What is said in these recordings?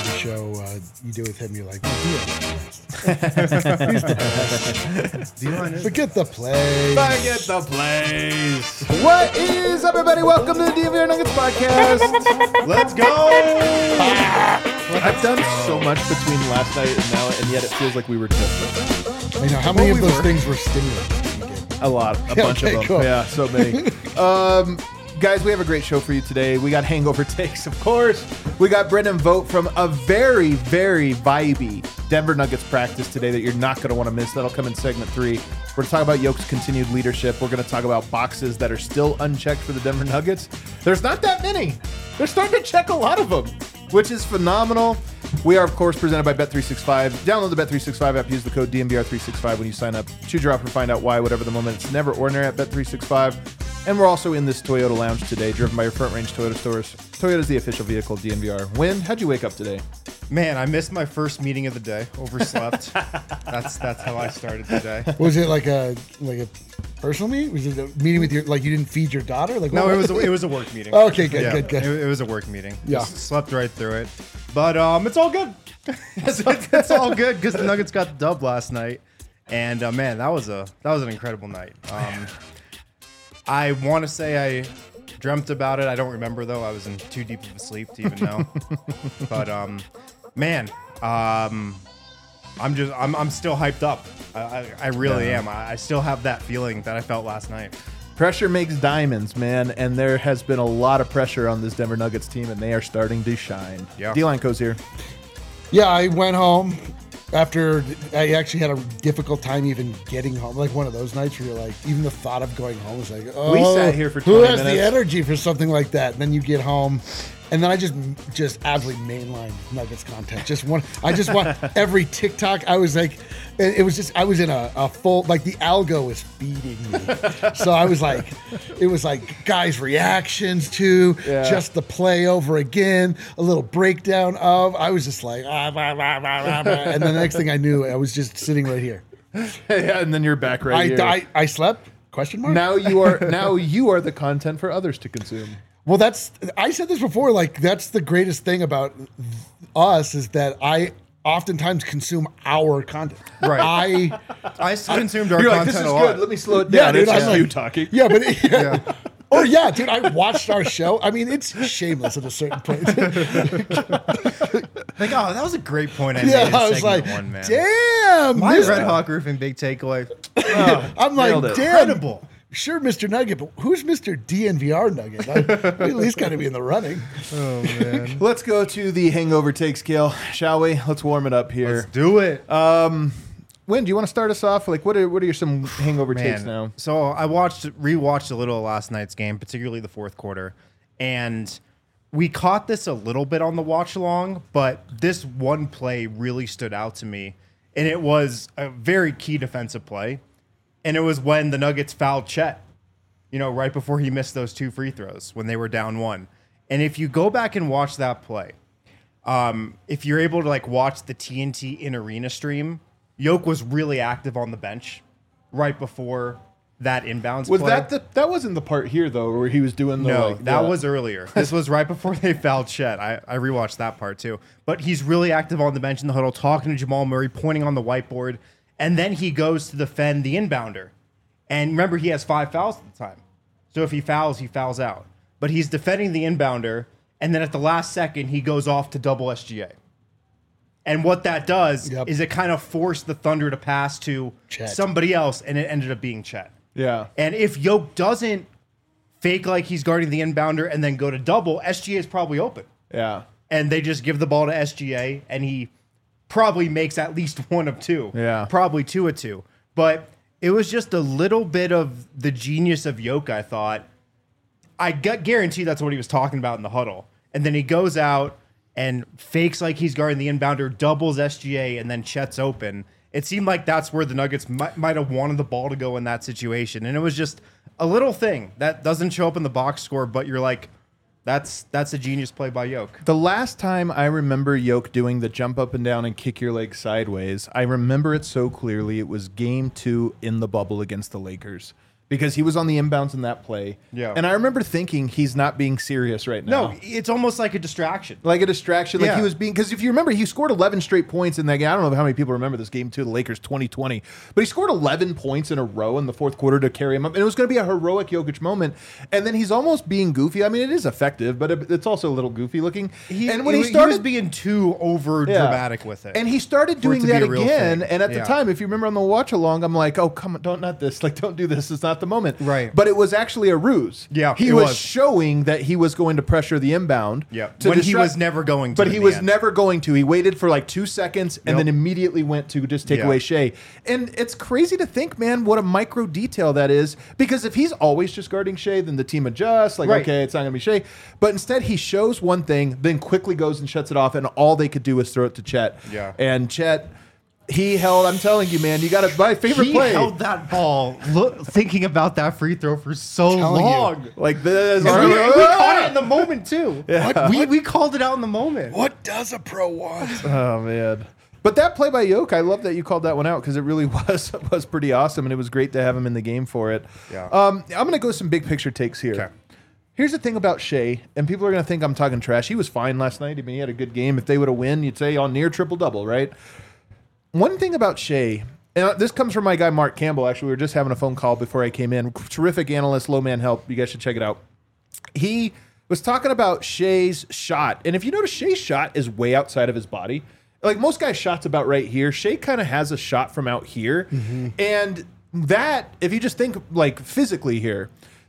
every show you do with him, you're like, oh, he's the best. Forget the plays. Forget the plays. What is up, everybody? Welcome to the DNVR Nuggets podcast. Let's go. I've done so much between last night and now, and yet it feels like we were just. I know. How many of those things were stimulating? A lot. A bunch of them. Cool. Yeah, so many. Guys, we have a great show for you today. We got hangover takes, of course. We got Brendan Vogt from a very, very vibey Denver Nuggets practice today that you're not going to want to miss. That'll come in segment 3. We're going to talk about Yoke's continued leadership. We're going to talk about boxes that are still unchecked for the Denver Nuggets. There's not that many. They're starting to check a lot of them, which is phenomenal. We are, of course, presented by Bet365. Download the Bet365 app. Use the code DNVR365 when you sign up. Choose your offer, find out why, whatever the moment. It's never ordinary at Bet365. And we're also in this Toyota lounge today, driven by your Front Range Toyota stores. Toyota is the official vehicle of DNVR. Win, how'd you wake up today? Man, I missed my first meeting of the day. Overslept. That's how I started today. Was it like a personal meeting? Was it a meeting with your, like you didn't feed your daughter? Like No, it was a work meeting. Okay, good. It was a work meeting. Yeah. Just slept right through it. But it's all good. it's all good because the Nuggets got the dub last night. And man, that was an incredible night. I want to say I dreamt about it. I don't remember though. I was in too deep of a sleep to even know. But man, I'm still hyped up. I really am. I still have that feeling that I felt last night. Pressure makes diamonds, man, and there has been a lot of pressure on this Denver Nuggets team, and they are starting to shine. Yeah. D-Line goes here. Yeah, I went home after I actually had a difficult time even getting home. Like one of those nights where you're like, even the thought of going home was like, oh, We sat here for 20 who has minutes. the energy for something like that? And then you get home, and then I just absolutely mainline Nuggets content. I just want every TikTok. I was like, it was just, I was in a full, like the algo was feeding me. So I was like, it was like guys' reactions to just the play over again, a little breakdown of, I was just like, and then the next thing I knew, I was just sitting right here. Yeah, and then you're back right here. I slept? Question mark? Now you are the content for others to consume. Well, I said this before, like that's the greatest thing about us is that I oftentimes consume our content. Right. I consumed our You're content like, this is a lot. good. Let me slow it down. dude, It's I'm just like- you talking. Yeah, but or yeah, dude, I watched our show. I mean, it's shameless at a certain point. Like, oh, that was a great point I made Yeah, in I was segment like, 1, man. damn, My this- Red Hawk Roofing big takeaway. I'm Nailed like, it. damn. Incredible. Sure, Mr. Nugget, but who's Mr. DNVR Nugget? I at least got to be in the running. Oh, man. Let's go to the hangover take scale, shall we? Let's warm it up here. Let's do it. Win, do you want to start us off? Like, what are your some hangover takes now? So I rewatched a little of last night's game, particularly the fourth quarter, and we caught this a little bit on the watch along, but this one play really stood out to me, and it was a very key defensive play, and it was when the Nuggets fouled Chet, right before he missed those 2 free throws when they were down 1. And if you go back and watch that play, if you're able to like watch the TNT in arena stream, Yoke was really active on the bench right before that inbounds Was play. that wasn't the part here though where he was doing the No, that was earlier. This was right before they fouled Chet. I rewatched that part too. But he's really active on the bench in the huddle, talking to Jamal Murray, pointing on the whiteboard, and then he goes to defend the inbounder. And remember, he has 5 fouls at the time. So if he fouls out. But he's defending the inbounder, and then at the last second, he goes off to double SGA. And what that does is it kind of forced the Thunder to pass to Chet. somebody else, and it ended up being Chet. Yeah. And if Yoke doesn't fake like he's guarding the inbounder and then go to double, SGA is probably open. Yeah. And they just give the ball to SGA, and he probably makes at least 1 of 2. Yeah. Probably 2 of 2. But it was just a little bit of the genius of Yoke, I thought. I guarantee that's what he was talking about in the huddle. And then he goes out and fakes like he's guarding the inbounder, doubles SGA, and then Chet's open. It seemed like that's where the Nuggets might have wanted the ball to go in that situation. And it was just a little thing that doesn't show up in the box score, but you're like, that's a genius play by Yoke. The last time I remember Yoke doing the jump up and down and kick your leg sideways, I remember it so clearly. It was game 2 in the bubble against the Lakers. because he was on the inbounds in that play. Yeah. And I remember thinking he's not being serious right now. No, it's almost like a distraction. Like a distraction. Like Yeah. he was being, because if you remember, he scored 11 straight points in that game. I don't know how many people remember this game too, the Lakers 2020, but he scored 11 points in a row in the fourth quarter to carry him up. And it was going to be a heroic Jokic moment. And then he's almost being goofy. I mean, it is effective, but it's also a little goofy looking. And when he was started being too over dramatic with it. and he started for it doing to be that a real again. thing. And at the Yeah. time, if you remember on the watch along, I'm like, oh, come on, not this. Like, don't do this. It's not the moment. Right. But it was actually a ruse. Yeah, He it was was. showing that he was going to pressure the inbound. Yeah. to When he distract- was never going to. But in he the was end. never going to. He waited for like 2 seconds and Yep. then immediately went to just take Yeah. away Shea. And it's crazy to think, man, what a micro detail that is. Because if he's always just guarding Shea, then the team adjusts. Like, Right. okay, it's not going to be Shea. But instead, he shows one thing, then quickly goes and shuts it off. And all they could do was throw it to Chet. Yeah. And Chet, he held, I'm telling you, man, you got to, my favorite He play. held that ball, thinking about that free throw for so Telling you. long. Like this. And we caught it in the moment too. What? We called it out in the moment. What does a pro want? Oh man. But that play by Yoke, I love that you called that one out because it really was pretty awesome, and it was great to have him in the game for it. Yeah. I'm going to go some big picture takes here. Okay. Here's the thing about Shea, and people are going to think I'm talking trash. He was fine last night. I mean, he had a good game. If they would have won, you'd say on near triple-double, right? One thing about Shea, and this comes from my guy Mark Campbell, actually. We were just having a phone call before I came in. Terrific analyst, low man help. You guys should check it out. He was talking about Shea's shot. And if you notice, Shea's shot is way outside of his body. Like most guys' shots about right here. Shea kind of has a shot from out here. And that, if you just think like physically here,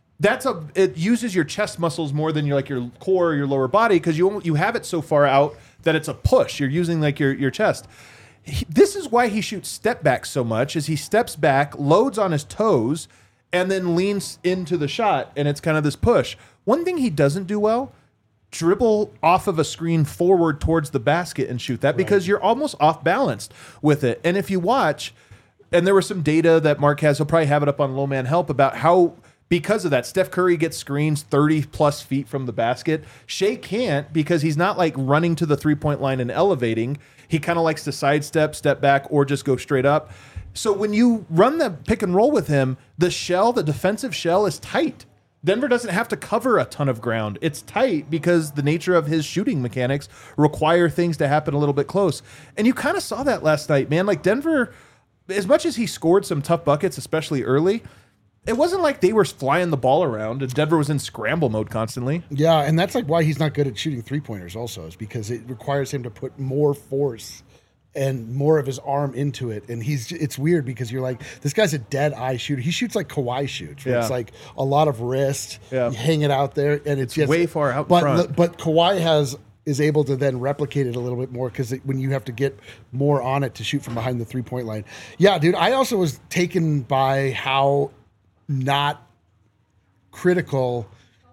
it uses your chest muscles more than your core or your lower body because you have it so far out that it's a push. You're using like your chest. This is why he shoots step back so much, is he steps back, loads on his toes, and then leans into the shot, and it's kind of this push. One thing he doesn't do well, dribble off of a screen forward towards the basket and shoot that because you're almost off balanced with it. And if you watch, and there was some data that Mark has, he'll probably have it up on Low Man Help about how, because of that, Steph Curry gets screens 30 plus feet from the basket. Shea can't because he's not like running to the 3-point line and elevating. He kind of likes to sidestep, step back, or just go straight up. So when you run the pick and roll with him, the defensive shell is tight. Denver doesn't have to cover a ton of ground. It's tight because the nature of his shooting mechanics require things to happen a little bit close. And you kind of saw that last night, man. Like Denver, as much as he scored some tough buckets, especially early, it wasn't like they were flying the ball around and Denver was in scramble mode constantly. Yeah, and that's like why he's not good at shooting three-pointers also, is because it requires him to put more force and more of his arm into it. And it's weird because you're like, this guy's a dead eye shooter. He shoots like Kawhi shoots, where Yeah. it's like a lot of wrist, Yeah. you hang it out there, and it's just way far out but, front. But Kawhi is able to then replicate it a little bit more because when you have to get more on it to shoot from behind the three-point line. Yeah, dude, I also was taken by how not critical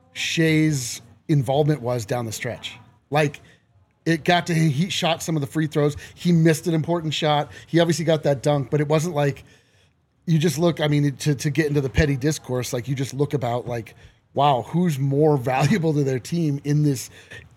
Shea's involvement was down the stretch. Like, it got to him, he shot some of the free throws. He missed an important shot. He obviously got that dunk, but it wasn't like you just look, I mean, to get into the petty discourse, like you just look about like, wow, who's more valuable to their team in these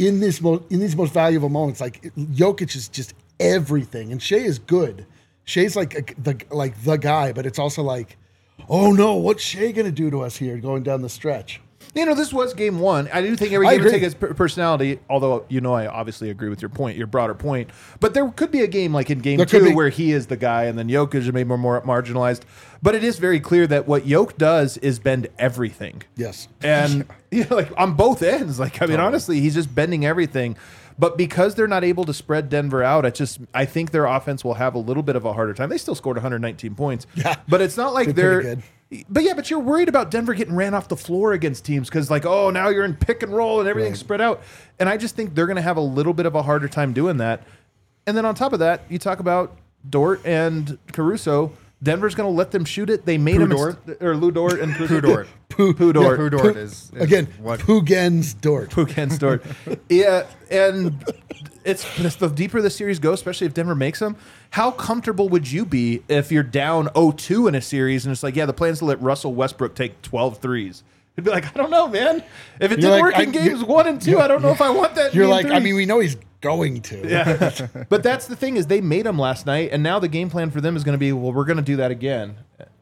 most valuable moments? Like Jokic is just everything, and Shea is good. Shea's like the guy, but it's also like, oh no, what's Shea gonna do to us here going down the stretch? You know, this was game one. I do think every I game would agree. take its personality, although, I obviously agree with your point, your broader point. But there could be a game like in game There could two be. where he is the guy and then Jokic is maybe more marginalized. But it is very clear that what Jokic does is bend everything. Yes. And like on both ends, like, I mean, honestly, he's just bending everything. But because they're not able to spread Denver out, I think their offense will have a little bit of a harder time. They still scored 119 points. Yeah. But it's not like They're pretty good. But you're worried about Denver getting ran off the floor against teams because, like, oh, now you're in pick and roll and everything's spread out. And I just think they're going to have a little bit of a harder time doing that. And then on top of that, you talk about Dort and Caruso. Denver's going to let them shoot it. They made him or Lou Dort and Pooh Dort. Pooh Dort. Pooh Dort is Again, what Pugen's Dort. Puken's Dort. Yeah, and it's the deeper the series goes, especially if Denver makes them, how comfortable would you be if you're down 0-2 in a series and it's like, yeah, the plan's to let Russell Westbrook take 12 threes? You'd be like, I don't know, man. If it didn't work in games 1 and 2, I don't know if I want that. You're in like, game I 3. mean, we know he's going to. Yeah. But that's the thing is they made them last night, and now the game plan for them is going to be, well, we're going to do that again.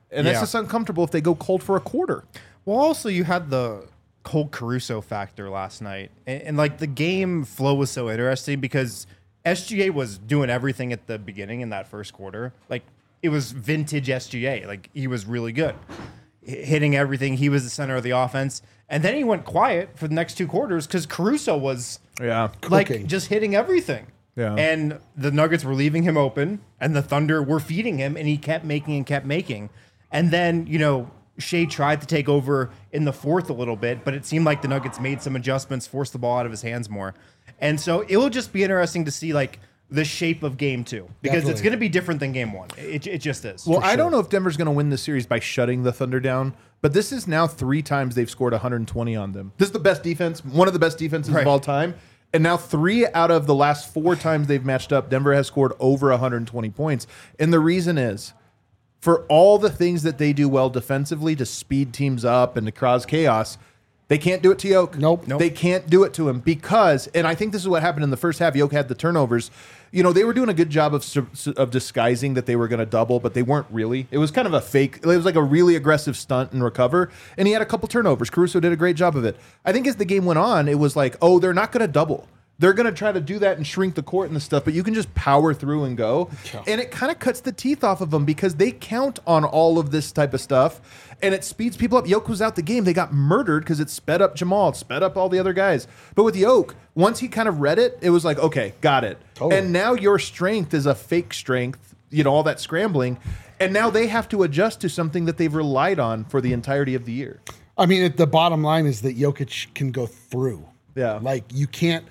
And that's Yeah. just uncomfortable if they go cold for a quarter. Well, also you had the whole Caruso factor last night, and like the game flow was so interesting because SGA was doing everything at the beginning in that first quarter. Like it was vintage SGA. Like he was really good, hitting everything. He was the center of the offense, and then he went quiet for the next 2 quarters because Caruso was like Cooking. just hitting everything. Yeah. And the Nuggets were leaving him open, and the Thunder were feeding him, and he kept making and kept making. And then, you know, Shea tried to take over in the fourth a little bit, but it seemed like the Nuggets made some adjustments, forced the ball out of his hands more. And so it will just be interesting to see, like, the shape of game 2 because it's Definitely. going to be different than game 1. It just is. Well, I don't know if Denver's going to win this series by shutting the Thunder down, but this is now 3 times they've scored 120 on them. This is the best defense, one of the best defenses Right. of all time. And now 3 out of the last 4 times they've matched up, Denver has scored over 120 points. And the reason is, for all the things that they do well defensively to speed teams up and to cause chaos, they can't do it to Yoke. Nope. They can't do it to him because, and I think this is what happened in the first half. Yoke had the turnovers. You know, they were doing a good job of disguising that they were going to double, but they weren't really. It was kind of a fake. It was like a really aggressive stunt and recover. And he had a couple turnovers. Caruso did a great job of it. I think as the game went on, it was like, oh, they're not going to double. They're going to try to do that and shrink the court and the stuff, but you can just power through and go. Yeah. And it kind of cuts the teeth off of them because they count on all of this type of stuff and it speeds people up. Yoke was out the game. They got murdered because it sped up Jamal, it sped up all the other guys. But with Yoke, once he kind of read it, it was like, okay, got it. Totally. And now your strength is a fake strength, you know, all that scrambling. And now they have to adjust to something that they've relied on for the entirety of the year. I mean, the bottom line is that Jokic can go through. Yeah. Like you can't.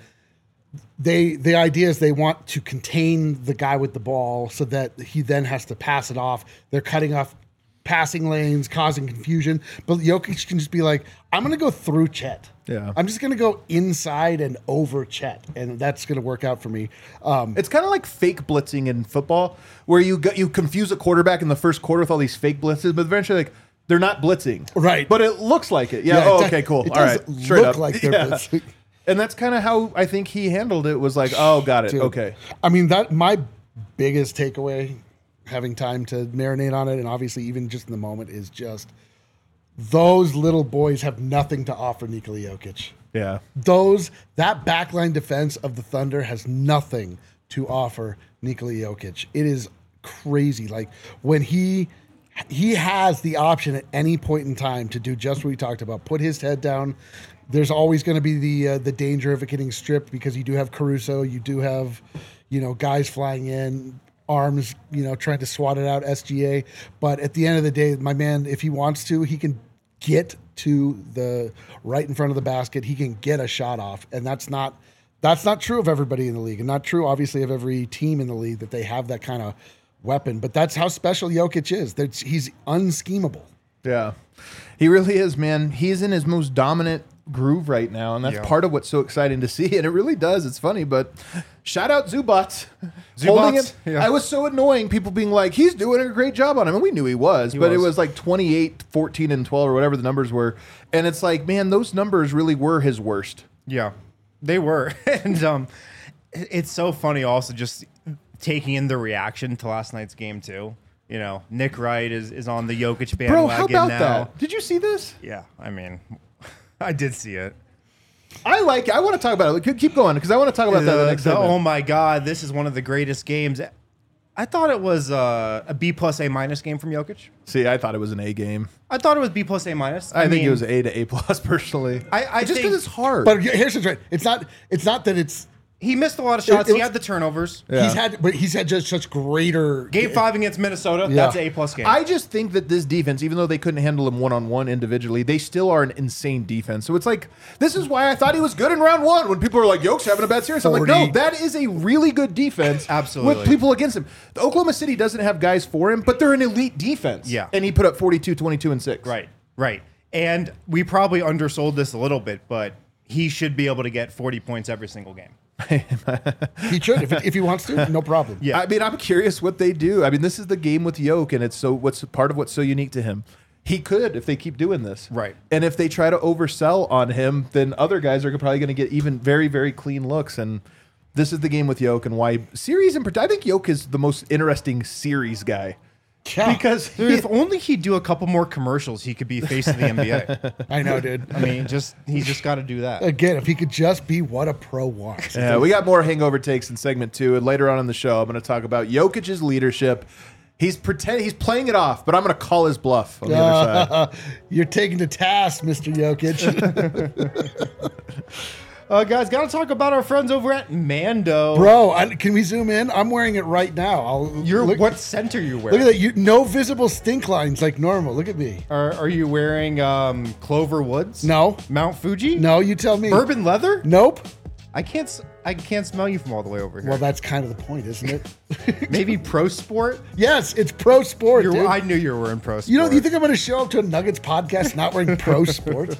The idea is they want to contain the guy with the ball so that he then has to pass it off. They're cutting off passing lanes, causing confusion. But Jokic can just be like, I'm going to go through Chet. Yeah. I'm just going to go inside and over Chet, and that's going to work out for me. It's kind of like fake blitzing in football, where you confuse a quarterback in the first quarter with all these fake blitzes, but eventually, like, they're not blitzing, Right. But it looks like it. Yeah. Yeah, Oh, it okay, does- cool. it All does right. Straight look up. like they're blitzing. And that's kind of how I think he handled it. Was like, oh, got it. Dude, Okay. I mean, that my biggest takeaway, having time to marinate on it, and obviously even just in the moment, is just those little boys have nothing to offer Nikola Jokic. Yeah. That backline defense of the Thunder has nothing to offer Nikola Jokic. It is crazy. Like when he has the option at any point in time to do just what we talked about, put his head down. There's always going to be the danger of it getting stripped because you do have Caruso, you do have, guys flying in, arms, trying to swat it out, SGA. But at the end of the day, my man, if he wants to, he can get to the right in front of the basket. He can get a shot off, and that's not true of everybody in the league, and not true, obviously, of every team in the league that they have that kind of weapon. But that's how special Jokic is. He's unschemable. Yeah. He really is, man. He's in his most dominant groove right now, and that's Yeah. part of what's so exciting to see. And it really does. It's funny, but shout out Zubats. Zubats, Holding him. yeah. I was so annoying, people being like, he's doing a great job on him. And we knew he was, but it was. was like 28, 14, and 12 or whatever the numbers were. And it's like, man, those numbers really were his worst. Yeah, they were. And it's so funny also just taking in the reaction to last night's game too. Nick Wright is on the Jokic bandwagon Bro, how about now. that? Did you see this? Yeah, I mean, I did see it. I like it. I want to talk about it. Keep going, because I want to talk about that in the next segment. Oh my God, this is one of the greatest games. I thought it was a B plus A minus game from Jokic. See, I thought it was an A game. I thought it was B plus A minus. I think mean, it was A to A plus personally. I just think- because it's hard. But here's the thing. It's not that it's He missed a lot of shots. it He was- had the turnovers. Yeah. he's had just such greater Game 5 against Minnesota, Yeah. that's an A plus game. I just think that this defense, even though they couldn't handle him one-on-one individually, they still are an insane defense. So it's like, this is why I thought he was good in round one. When people were like, Yoke's having a bad series. I'm like, 40. no, that is a really good defense. Absolutely. With people against him. The Oklahoma City doesn't have guys for him, but they're an elite defense. Yeah. And he put up 42, 22, and 6. Right. And we probably undersold this a little bit, but he should be able to get 40 points every single game. He should if he wants to, no problem. Yeah. I mean, I'm curious what they do. I mean, this is the game with Yoke, and it's what's part of what's so unique to him. He could if they keep doing this. Right. And if they try to oversell on him, then other guys are probably going to get even very, very clean looks. And this is the game with Yoke and why series in particular. I think Yoke is the most interesting series guy. Yeah. because Dude, if only he'd do a couple more commercials, he could be face of the NBA. I know, dude. I mean, he's just got to do that. Again, if he could just be what a pro wants. yeah, we got more hangover takes in segment 2, and later on in the show, I'm going to talk about Jokic's leadership. He's playing it off, but I'm going to call his bluff on the other side. You're taking to task, Mr. Jokic. Guys, got to talk about our friends over at Mando. Bro, can we zoom in? I'm wearing it right now. What center you Look wearing? at that. No visible stink lines like normal. Look at me. Are you wearing Clover Woods? No. Mount Fuji? No, you tell me. Bourbon leather? Nope. I can't smell you from all the way over here. Well, that's kind of the point, isn't it? Maybe Pro Sport? Yes, it's pro sport, dude. I knew you were wearing Pro Sport. You think I'm going to show up to a Nuggets podcast not wearing pro sport?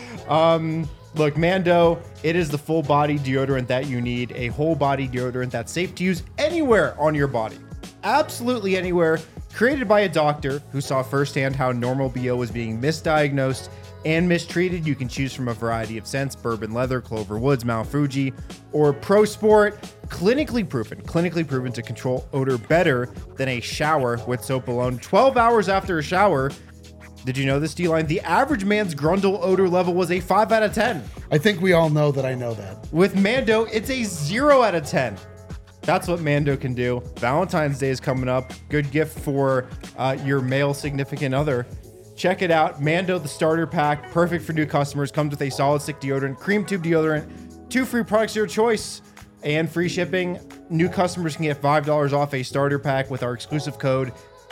Look, Mando, it is the full body deodorant that you need, a whole body deodorant that's safe to use anywhere on your body. Absolutely anywhere. Created by a doctor who saw firsthand how normal BO was being misdiagnosed and mistreated. You can choose from a variety of scents: bourbon leather, Clover Woods, Mount Fuji, or Pro Sport. Clinically proven to control odor better than a shower with soap alone. 12 hours after a shower. Did you know this, D-Line? The average man's Grundle odor level was a 5 out of 10. I think we all know that I know that. With Mando, it's a 0 out of 10. That's what Mando can do. Valentine's Day is coming up. Good gift for your male significant other. Check it out. Mando, the starter pack, perfect for new customers. Comes with a solid stick deodorant, cream tube deodorant, 2 free products of your choice, and free shipping. New customers can get $5 off a starter pack with our exclusive code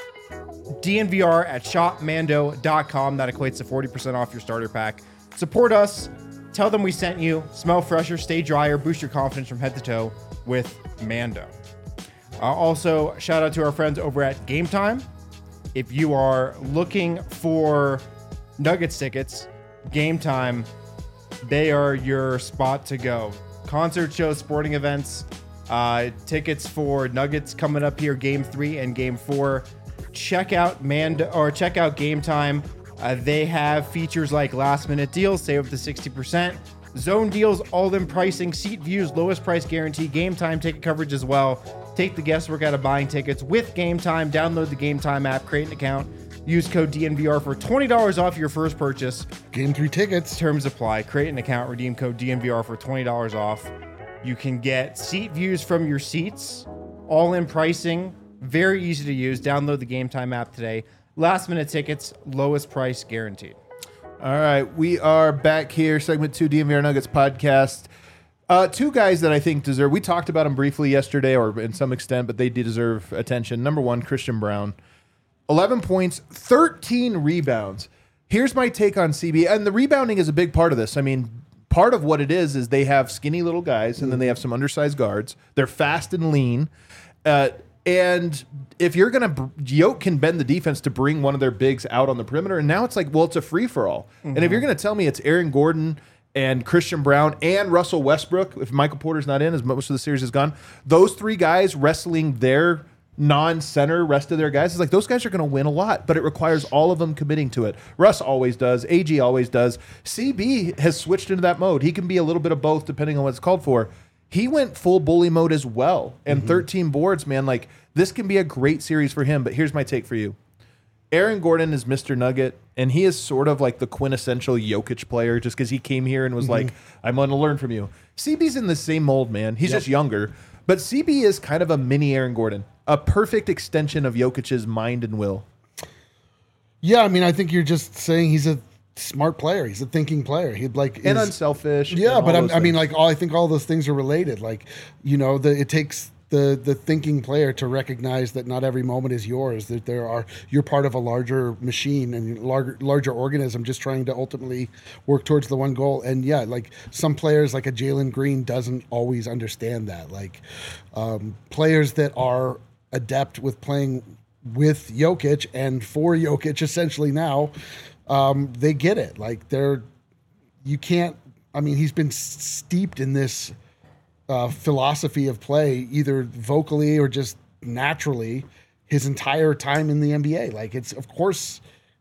DNVR at shopmando.com. That equates to 40% off your starter pack. Support us. Tell them we sent you. Smell fresher, stay drier, boost your confidence from head to toe with Mando. Also, shout out to our friends over at Game Time. If you are looking for Nuggets tickets, Game Time, they are your spot to go. Concert shows, sporting events, tickets for Nuggets coming up here, Game 3 and Game 4. Check out Game Time. They have features like last minute deals, save up to 60%, zone deals, all-in pricing, seat views, lowest price guarantee, Game Time ticket coverage as well. Take the guesswork out of buying tickets with Game Time. Download the Game Time app, create an account, use code DNVR for $20 off your first purchase. Game 3 tickets. Terms apply. Create an account, redeem code DNVR for $20 off. You can get seat views from your seats, all-in pricing. Very easy to use. Download the Game Time app today. Last minute tickets, lowest price guaranteed. All right, we are back here, segment 2, DNVR Nuggets podcast. 2 guys that I think deserve, we talked about them briefly yesterday or in some extent, but they deserve attention. Number 1, Christian Braun. 11 points, 13 rebounds. Here's my take on CB, and the rebounding is a big part of this. I mean, part of what it is they have skinny little guys, and then they have some undersized guards. They're fast and lean. And if you're going to, Yoke can bend the defense to bring one of their bigs out on the perimeter. And now it's like, well, it's a free for all. And if you're going to tell me it's Aaron Gordon and Christian Braun and Russell Westbrook, if Michael Porter's not in, as most of the series is gone, those 3 guys wrestling their non-center rest of their guys, it's like those guys are going to win a lot, but it requires all of them committing to it. Russ always does. AG always does. CB has switched into that mode. He can be a little bit of both depending on what it's called for. He went full bully mode as well. And 13 boards, man, like this can be a great series for him. But here's my take for you. Aaron Gordon is Mr. Nugget, and he is sort of like the quintessential Jokic player just because he came here and was like, I'm going to learn from you. CB's in the same mold, man. He's just younger. But CB is kind of a mini Aaron Gordon, a perfect extension of Jokic's mind and will. Yeah, I mean, I think you're just saying he's a smart player. He's a thinking player. He'd like And unselfish. Yeah, and but all I mean, things. like, I think all those things are related. Like, it takes the thinking player to recognize that not every moment is yours. That you're part of a larger machine and larger organism, just trying to ultimately work towards the one goal. And yeah, like some players, like a Jalen Green, doesn't always understand that. Like players that are adept with playing with Jokic and for Jokic, essentially now. They get it. Like you can't, I mean, he's been steeped in this philosophy of play, either vocally or just naturally his entire time in the NBA. Like of course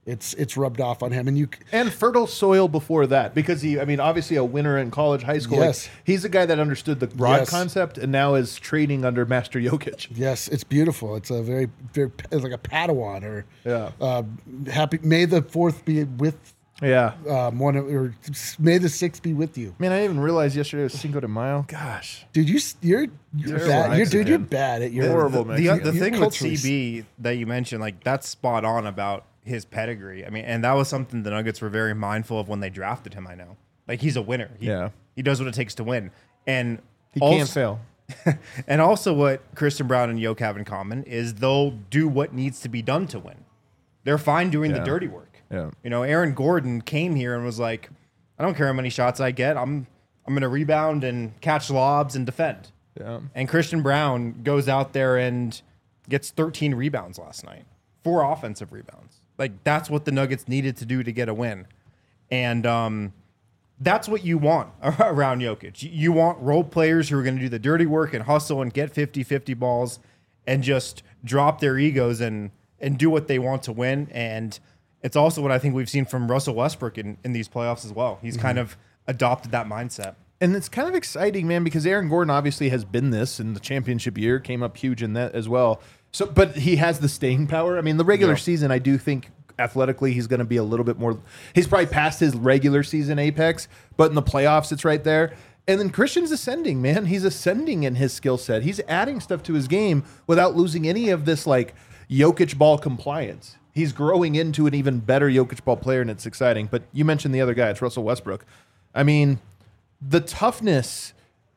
it's rubbed off on him. And fertile soil before that, because obviously a winner in college, high school. Yes. He's a guy that understood the broad Yes. concept and now is training under Master Jokic. Yes, it's beautiful. It's a very, very it's like a Padawan or Yeah. happy. May the 4th be with Yeah. or may the 6th be with you, Man, I didn't even realize yesterday was Cinco de Mayo. Gosh. dude. You're bad. You're bad at your Horrible, man. The You're thing with culturally- CB that you mentioned, like that's spot on about his pedigree. I mean, and that was something the Nuggets were very mindful of when they drafted him. I know, like he's a winner. He does what it takes to win, and He can't fail. And also, what Christian Brown and Yoke have in common is they'll do what needs to be done to win. They're fine doing the dirty work. Yeah. You know, Aaron Gordon came here and was like, I don't care how many shots I get. I'm going to rebound and catch lobs and defend. Yeah. And Christian Brown goes out there and gets 13 rebounds last night, 4 offensive rebounds. Like, that's what the Nuggets needed to do to get a win. And that's what you want around Jokic. You want role players who are going to do the dirty work and hustle and get 50-50 balls and just drop their egos and do what they want to win. And it's also what I think we've seen from Russell Westbrook in these playoffs as well. He's kind of adopted that mindset. And it's kind of exciting, man, because Aaron Gordon obviously has been this in the championship year, came up huge in that as well. So, but he has the staying power. I mean, the regular season, I do think athletically he's going to be a little bit more. He's probably past his regular season apex, but in the playoffs, it's right there. And then Christian's ascending, man. He's ascending in his skill set. He's adding stuff to his game without losing any of this like Jokic ball compliance. He's growing into an even better Jokic ball player, and it's exciting. But you mentioned the other guy. It's Russell Westbrook. I mean, the toughness.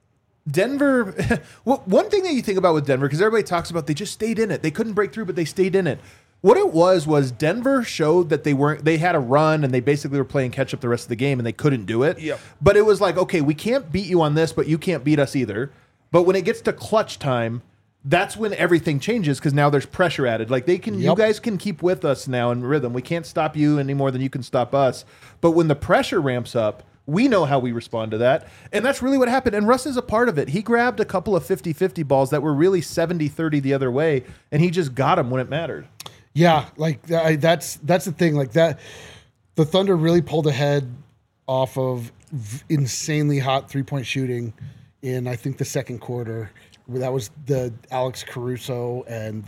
Denver, one thing that you think about with Denver, because everybody talks about they just stayed in it. They couldn't break through, but they stayed in it. What it was Denver showed that they had a run and they basically were playing catch up the rest of the game and they couldn't do it. Yep. But it was like, okay, we can't beat you on this, but you can't beat us either. But when it gets to clutch time, that's when everything changes because now there's pressure added. Like you guys can keep with us now in rhythm. We can't stop you any more than you can stop us. But when the pressure ramps up, we know how we respond to that. And that's really what happened. And Russ is a part of it. He grabbed a couple of 50-50 balls that were really 70-30 the other way, and he just got them when it mattered. Yeah, like that's the thing. Like that, the Thunder really pulled ahead off of insanely hot 3-point shooting in I think the second quarter. That was the Alex Caruso and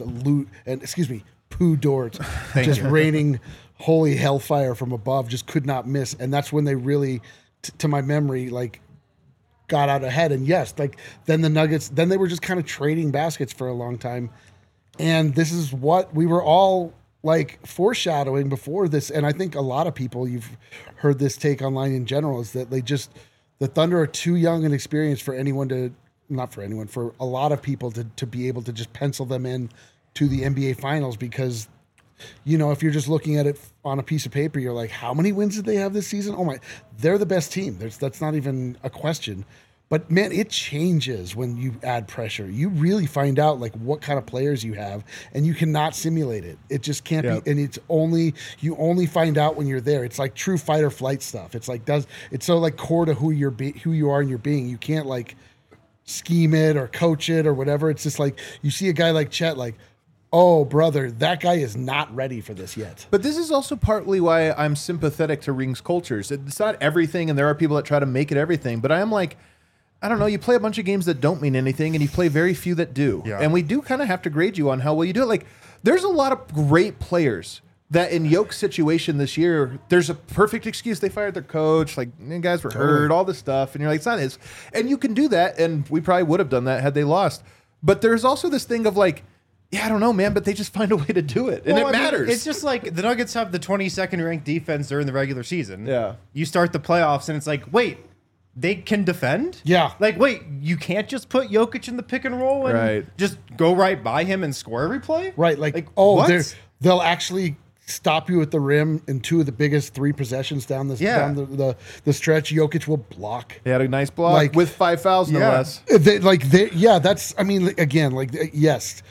Pooh Dort just raining holy hellfire from above, just could not miss. And that's when they really, to my memory, like got out ahead. And yes, like then the Nuggets, then they were just kind of trading baskets for a long time. And this is what we were all like foreshadowing before this. And I think a lot of people, you've heard this take online in general, is that the Thunder are too young and experienced for anyone to, not for anyone, for a lot of people to be able to just pencil them in to the NBA Finals because, you know, if you're just looking at it on a piece of paper, you're like, how many wins did they have this season? Oh my, they're the best team. That's not even a question. But man, it changes when you add pressure. You really find out like what kind of players you have, and you cannot simulate it. It just can't be. And you only find out when you're there. It's like true fight or flight stuff. It's like it's so like core to who you are in your being. You can't like scheme it or coach it or whatever. It's just like you see a guy like Chet, like, oh brother, that guy is not ready for this yet. But this is also partly why I'm sympathetic to Rings cultures. It's not everything, and there are people that try to make it everything. But I am like, I don't know, you play a bunch of games that don't mean anything, and you play very few that do. Yeah. And we do kind of have to grade you on how well you do it. Like, there's a lot of great players that in Yoke's situation this year, there's a perfect excuse. They fired their coach, like, guys were hurt, all this stuff. And you're like, it's not his. And you can do that, and we probably would have done that had they lost. But there's also this thing of like, yeah, I don't know, man, but they just find a way to do it. And it matters. It's just like the Nuggets have the 22nd ranked defense during the regular season. Yeah. You start the playoffs, and it's like, wait, they can defend? Yeah. Like, wait, you can't just put Jokic in the pick and roll and just go right by him and score every play? Right. Like they'll actually stop you at the rim in two of the biggest 3 possessions down the stretch. Jokic will block. He had a nice block with 5 fouls, no less. That's, I mean, again, like, yes,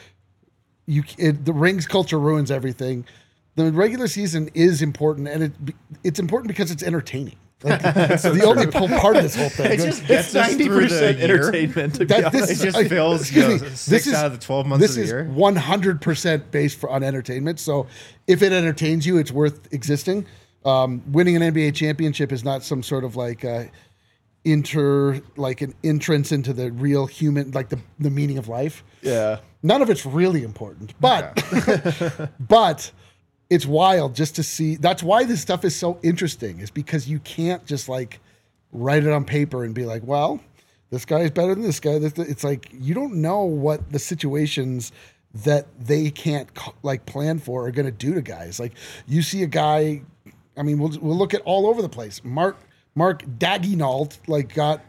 the Rings culture ruins everything. The regular season is important, and it's important because it's entertaining. Like, it's the only part of this whole thing. It just gets us through the year. entertainment. To be That- honest. this It just Like, fills excuse me, 6 out of the 12 months of the year. This is 100% based on entertainment. So if it entertains you, it's worth existing. Winning an NBA championship is not some sort of like an entrance into the real human, like the meaning of life. Yeah. None of it's really important, but but it's wild just to see. That's why this stuff is so interesting, is because you can't just like write it on paper and be like, well, this guy is better than this guy. It's like you don't know what the situations that they can't like plan for are going to do to guys. Like you see a guy, I mean, we'll look at all over the place. Mark Daigneault like got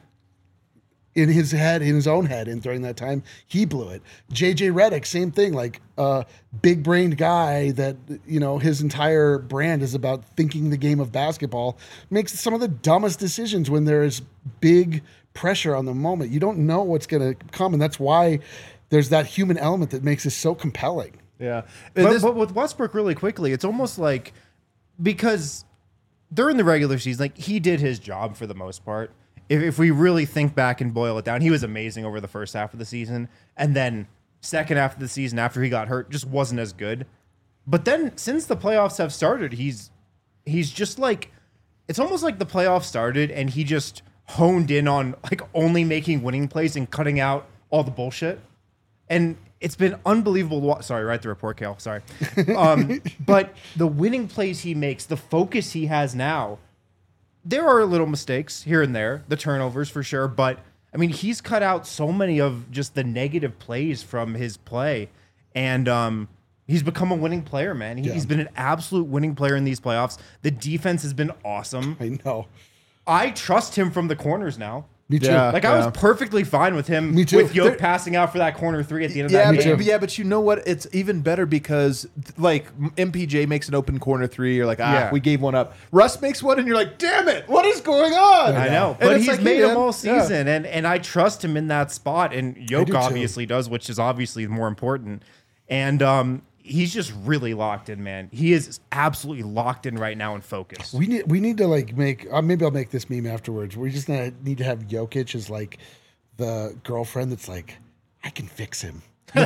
in his own head, and during that time he blew it. JJ Redick, same thing, like a big brained guy that, you know, his entire brand is about thinking the game of basketball, makes some of the dumbest decisions when there is big pressure on the moment. You don't know what's going to come, and that's why there's that human element that makes this so compelling. Yeah. But with Westbrook, really quickly, it's almost like, because during the regular season, like, he did his job for the most part. If we really think back and boil it down, he was amazing over the first half of the season. And then second half of the season, after he got hurt, just wasn't as good. But then since the playoffs have started, he's just like, it's almost like the playoffs started and he just honed in on like only making winning plays and cutting out all the bullshit. And it's been unbelievable. Sorry, write the report, Kale. Sorry. But the winning plays he makes, the focus he has now, there are little mistakes here and there, the turnovers for sure. But I mean, he's cut out so many of just the negative plays from his play. And he's become a winning player, man. He's been an absolute winning player in these playoffs. The defense has been awesome. I know. I trust him from the corners now. Me too. Yeah. Like, I was perfectly fine with him, Me too. with Yoke passing out for that corner three at the end of that game. But you know what? It's even better because, like, MPJ makes an open corner three. You're like, Yeah. we gave one up. Russ makes one, and you're like, damn it, what is going on? I know, And but it's he's like, made yeah, them all yeah. season, and I trust him in that spot. And Yoke do too. obviously does, which is obviously more important. And he's just really locked in, man. He is absolutely locked in right now and focused. We need to like make maybe I'll make this meme afterwards. We just need to have Jokic as like the girlfriend that's like, I can fix him.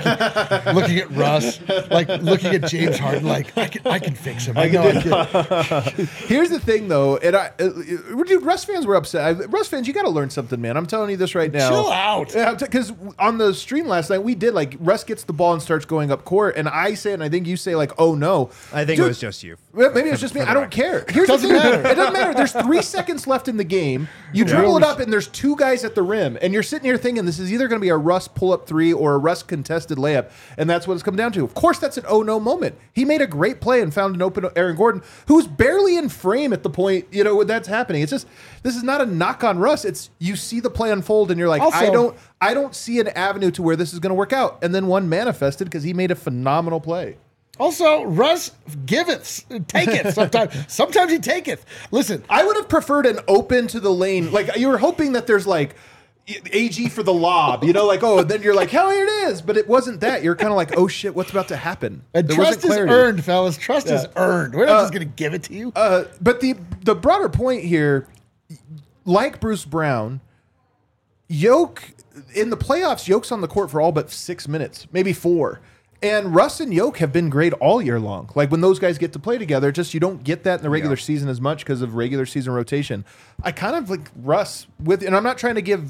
Looking at Russ, like looking at James Harden, like I can fix him. I know I can. Here's the thing, though, and dude, Russ fans were upset. Russ fans, you got to learn something, man. I'm telling you this right now. Chill out. Yeah, because on the stream last night, we did like Russ gets the ball and starts going up court, and I say, and I think you say, like, oh no. I think Dude, it was just you. well, maybe it's just me. I don't care. Here's the Doesn't thing. matter. It doesn't matter. There's 3 seconds left in the game. You dribble it up, and there's 2 guys at the rim, and you're sitting here thinking this is either going to be a Russ pull-up 3 or a Russ contested layup, and that's what it's come down to. Of course, that's an oh no moment. He made a great play and found an open Aaron Gordon, who's barely in frame at the point, you know, when that's happening. It's just, this is not a knock on Russ. It's, you see the play unfold, and you're like, Also- I don't see an avenue to where this is going to work out. And then one manifested because he made a phenomenal play. Also, Russ giveth, taketh. Sometimes he taketh. Listen, I would have preferred an open to the lane. Like, you were hoping that there's like AG for the lob, you know, like, oh, and then you're like, hell, here it is. But it wasn't that. You're kind of like, oh shit, what's about to happen? and There trust wasn't is clarity. earned, fellas. Trust is earned. We're not just going to give it to you. But the broader point here, like Bruce Brown, Yoke in the playoffs, Yoke's on the court for all but 6 minutes, maybe 4. And Russ and Yoke have been great all year long. Like, when those guys get to play together, just you don't get that in the regular season as much because of regular season rotation. I kind of like Russ with, and I'm not trying to give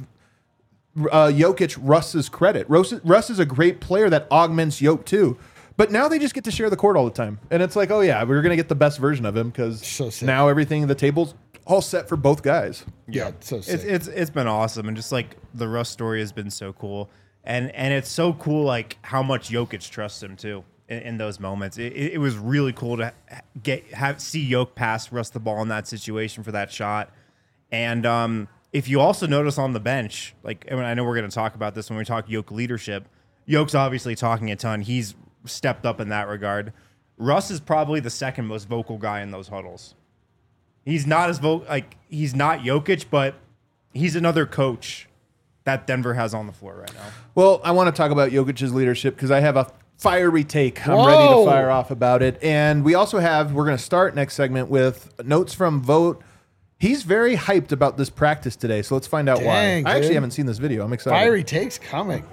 Jokic Russ's credit. Russ is a great player that augments Yoke too. But now they just get to share the court all the time. And it's like, oh yeah, we're going to get the best version of him because So sick. now everything, the table's all set for both guys. Yeah, so sick. It's been awesome, and just like the Russ story has been so cool, and it's so cool like how much Jokic trusts him too in those moments. It was really cool to see Jokic pass Russ the ball in that situation for that shot, and if you also notice on the bench, like, I mean, I know we're going to talk about this when we talk Jokic leadership. Jokic's obviously talking a ton. He's stepped up in that regard. Russ is probably the second most vocal guy in those huddles. He's not as he's not Jokic, but he's another coach that Denver has on the floor right now. Well, I want to talk about Jokic's leadership because I have a fiery take. I'm Whoa. ready to fire off about it. And we also have, we're going to start next segment with notes from Vote. He's very hyped about this practice today, so let's find out Dang, why. I actually dude. haven't seen this video. I'm excited. Fiery takes coming.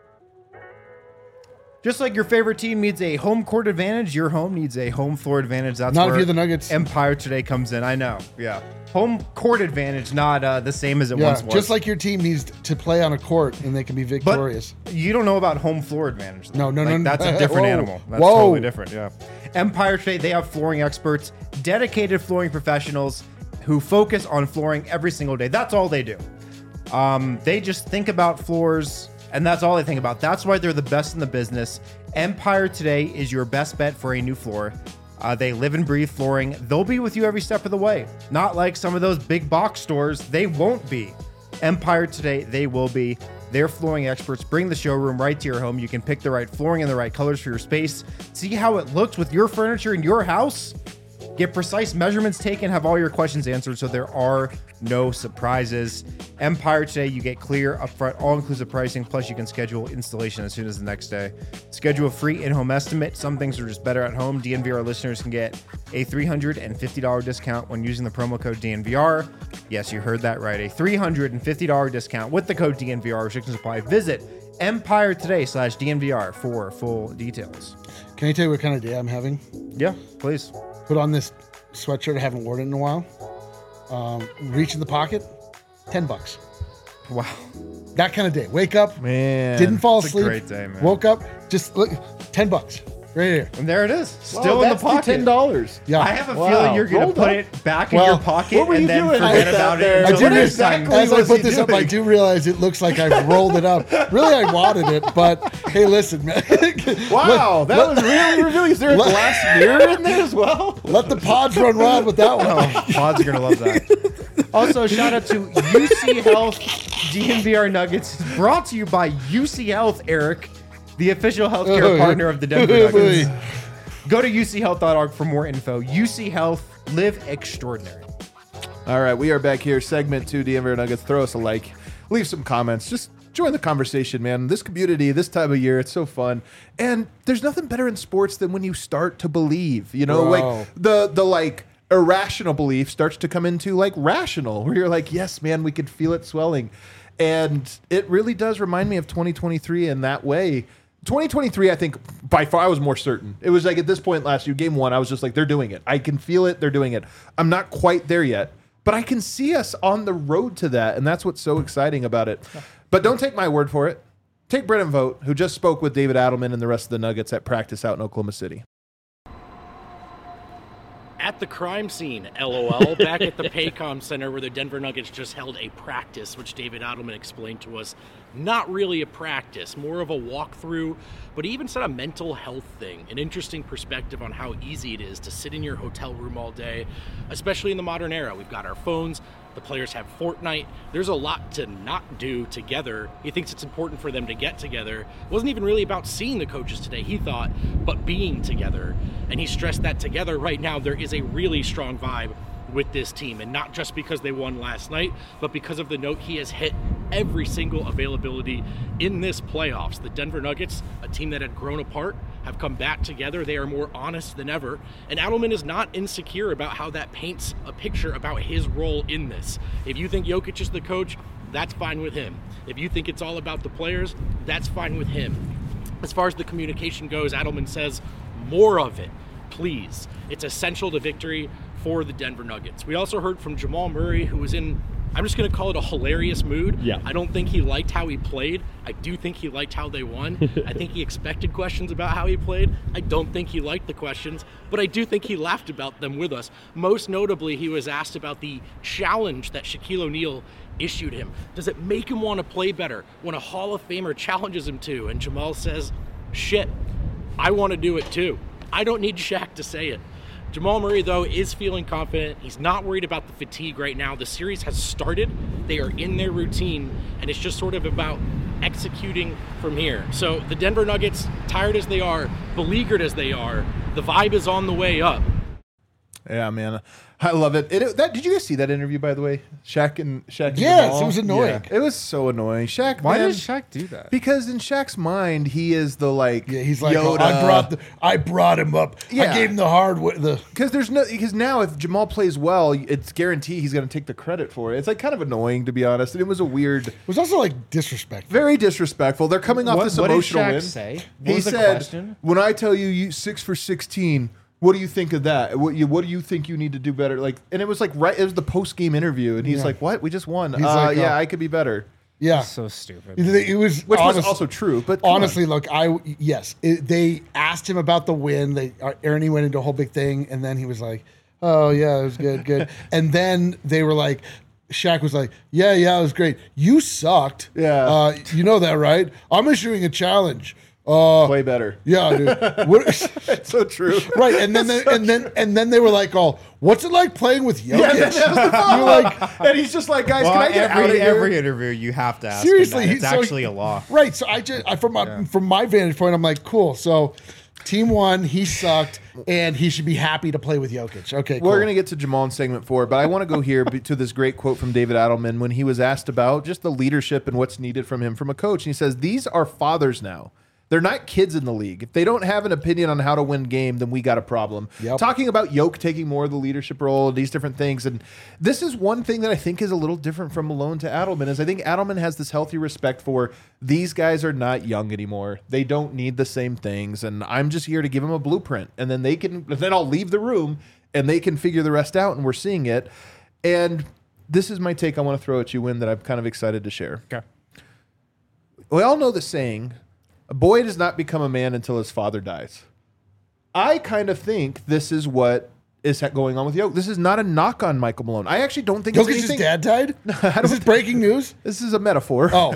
Just like your favorite team needs a home court advantage, your home needs a home floor advantage. That's Not if where you're the Nuggets. Empire Today comes in. I know. Yeah. Home court advantage, not the same as it Yeah, once was. just like your team needs to play on a court and they can be victorious. You don't know about home floor advantage. Though. No. That's a different Whoa. animal. That's Whoa. totally different. Yeah. Empire Today, they have flooring experts, dedicated flooring professionals who focus on flooring every single day. That's all they do. They just think about floors, and that's all they think about. That's why they're the best in the business. Empire Today is your best bet for a new floor. They live and breathe flooring. They'll be with you every step of the way. Not like some of those big box stores. They won't be. Empire Today, they will be. Their flooring experts bring the showroom right to your home. You can pick the right flooring and the right colors for your space. See how it looks with your furniture in your house. Get precise measurements taken, have all your questions answered so there are no surprises. Empire Today, you get clear, upfront, all-inclusive pricing, plus you can schedule installation as soon as the next day. Schedule a free in-home estimate. Some things are just better at home. DNVR listeners can get a $350 discount when using the promo code DNVR. Yes, you heard that right. A $350 discount with the code DNVR. Restrictions apply. Visit EmpireToday/DNVR for full details. Can I tell you what kind of day I'm having? Yeah, please. Put on this sweatshirt. I haven't worn it in a while. Reach in the pocket, $10. Wow. That kind of day. Wake up, Man. didn't fall It's a asleep. great day, man. Woke up, just look, $10 right here. And there it is. Wow, Still in the that's pocket. $10. Yeah, I have a Wow. feeling you're going Rolled to put up. it back in Well, your pocket what were you and then doing forget with about that it. there? I until do next time. exactly as I was put he this up, I doing? do realize it looks like I've rolled it up. Really, I wanted it, but hey, listen, man. Wow, that was really revealing. Is there a glass mirror in there as well? Let the pods run wild with that one. Oh, Pods are going to love that. Also, shout out to UC Health DNVR Nuggets. Brought to you by UC Health, Eric, the official healthcare partner of the Denver Nuggets. Go to uchealth.org for more info. UC Health, live extraordinary. All right, we are back here. Segment 2, DNVR Nuggets. Throw us a like. Leave some comments. Just join the conversation, man. This community, this time of year, it's so fun. And there's nothing better in sports than when you start to believe. You know, Bro. like the like irrational belief starts to come into like rational, where you're like, yes, man, we could feel it swelling. And it really does remind me of 2023 in that way. 2023, I think by far I was more certain. It was like at this point last year, game 1, I was just like, they're doing it. I can feel it. They're doing it. I'm not quite there yet, but I can see us on the road to that. And that's what's so exciting about it. But don't take my word for it. Take Brennan Vogt, who just spoke with David Adelman and the rest of the Nuggets at practice out in Oklahoma City. At the crime scene, LOL, back at the Paycom Center where the Denver Nuggets just held a practice, which David Adelman explained to us, not really a practice, more of a walkthrough, but he even said a mental health thing, an interesting perspective on how easy it is to sit in your hotel room all day, especially in the modern era. We've got our phones, the players have Fortnite, there's a lot to not do together. He thinks it's important for them to get together. It wasn't even really about seeing the coaches today, he thought, but being together. And he stressed that together right now there is a really strong vibe with this team, and not just because they won last night, but because of the note he has hit every single availability in this playoffs. The Denver Nuggets, a team that had grown apart, have come back together. They are more honest than ever, and Adelman is not insecure about how that paints a picture about his role in this. If you think Jokic is the coach, that's fine with him. If you think it's all about the players, that's fine with him. As far as the communication goes, Adelman says, more of it, please. It's essential to victory for the Denver Nuggets. We also heard from Jamal Murray, who was in, I'm just going to call it a hilarious mood. Yeah. I don't think he liked how he played. I do think he liked how they won. I think he expected questions about how he played. I don't think he liked the questions, but I do think he laughed about them with us. Most notably, he was asked about the challenge that Shaquille O'Neal issued him. Does it make him want to play better when a Hall of Famer challenges him to? And Jamal says, shit, I want to do it too. I don't need Shaq to say it. Jamal Murray, though, is feeling confident. He's not worried about the fatigue right now. The series has started. They are in their routine, and it's just sort of about executing from here. So the Denver Nuggets, tired as they are, beleaguered as they are, the vibe is on the way up. Yeah, man, I love it. Did you guys see that interview, by the way? Shaq and Yes, Jamal? it was annoying. It was so annoying. Shaq, Why man, did Shaq do that? because in Shaq's mind, he is the Yeah, he's like, Yoda. I brought him up. Yeah. I gave him the hard way. Because now if Jamal plays well, it's guaranteed he's going to take the credit for it. It's like kind of annoying, to be honest. And it was a weird, It was also like disrespectful. very disrespectful. They're coming off this What did emotional Shaq win. say? What He was the said, question? "When I tell you 6 for 16, what do you think of that? What do you think you need to do better?" Like, and it was like it was the post game interview, and he's Yeah. like, "What? We just won. He's like, yeah, I could be better." Yeah, So stupid. it was Which was honest- also true, but come on. honestly, look, they asked him about the win. Ernie went into a whole big thing, and then he was like, "Oh yeah, it was good." And then they were like, Shaq was like, "Yeah, it was great. You sucked. Yeah. You know that, right? I'm issuing a challenge. Way better. Yeah, dude. What, It's so true. right, and then they were like, "Oh, what's it like playing with Jokic?" Yeah, that was the You're follow-up. like, And he's just like, "Guys, Well, can I get out of here?" every interview you have to ask. seriously, him that. It's so actually a law. Right. So from my vantage point, I'm like, cool. So team won, he sucked, and he should be happy to play with Jokic. Okay, cool. We're going to get to Jamal in segment 4, but I want to go here to this great quote from David Adelman when he was asked about just the leadership and what's needed from him from a coach. And he says, "These are fathers now. They're not kids in the league. If they don't have an opinion on how to win game, then we got a problem." Yep. Talking about Yoke taking more of the leadership role, these different things. And this is one thing that I think is a little different from Malone to Adelman is I think Adelman has this healthy respect for these guys are not young anymore. They don't need the same things. And I'm just here to give them a blueprint. And then then I'll leave the room and they can figure the rest out. And we're seeing it. And this is my take I want to throw at you, Win, that I'm kind of excited to share. Okay. We all know the saying, a boy does not become a man until his father dies. I kind of think this is what is going on with Jokic. This is not a knock on Michael Malone. I actually don't think it's Jokic's anything. dad died? This is breaking news? This is a metaphor. Oh.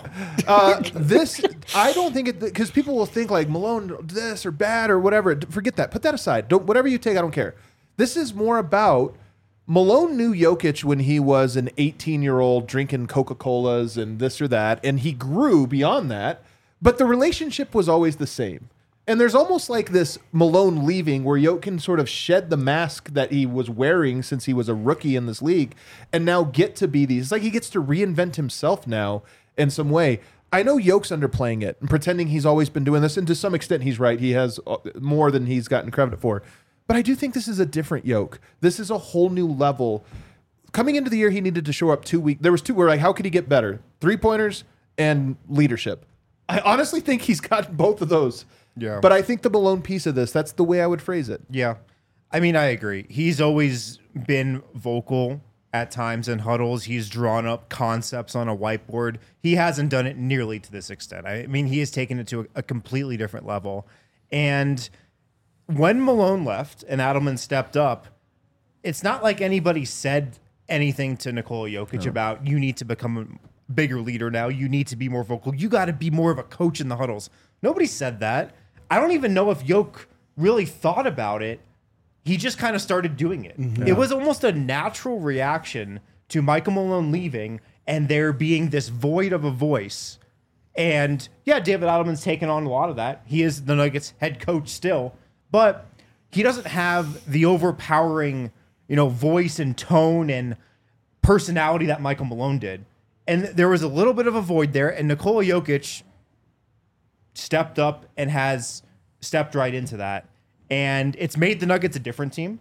I don't think it, because people will think like Malone this or bad or whatever. Forget that. Put that aside. Whatever you take, I don't care. This is more about Malone knew Jokic when he was an 18-year-old drinking Coca-Colas and this or that, and he grew beyond that, but the relationship was always the same. And there's almost like this Malone leaving where Jokic can sort of shed the mask that he was wearing since he was a rookie in this league and now get to be these. It's like he gets to reinvent himself now in some way. I know Jokic's underplaying it and pretending he's always been doing this, and to some extent he's right. He has more than he's gotten credit for. But I do think this is a different Jokic. This is a whole new level. Coming into the year, he needed to show up 2 weeks. There was two where like, how could he get better? 3-pointers and leadership. I honestly think he's got both of those. Yeah. But I think the Malone piece of this, that's the way I would phrase it. Yeah. I mean, I agree. He's always been vocal at times in huddles. He's drawn up concepts on a whiteboard. He hasn't done it nearly to this extent. I mean, he has taken it to a completely different level. And when Malone left and Adelman stepped up, it's not like anybody said anything to Nikola Jokic about you need to become a bigger leader now. You need to be more vocal. You got to be more of a coach in the huddles. Nobody said that. I don't even know if Jokic really thought about it. He just kind of started doing it. Mm-hmm. It was almost a natural reaction to Michael Malone leaving and there being this void of a voice. And yeah, David Adelman's taken on a lot of that. He is the Nuggets head coach still, but he doesn't have the overpowering, voice and tone and personality that Michael Malone did. And there was a little bit of a void there, and Nikola Jokic stepped up and has stepped right into that. And it's made the Nuggets a different team.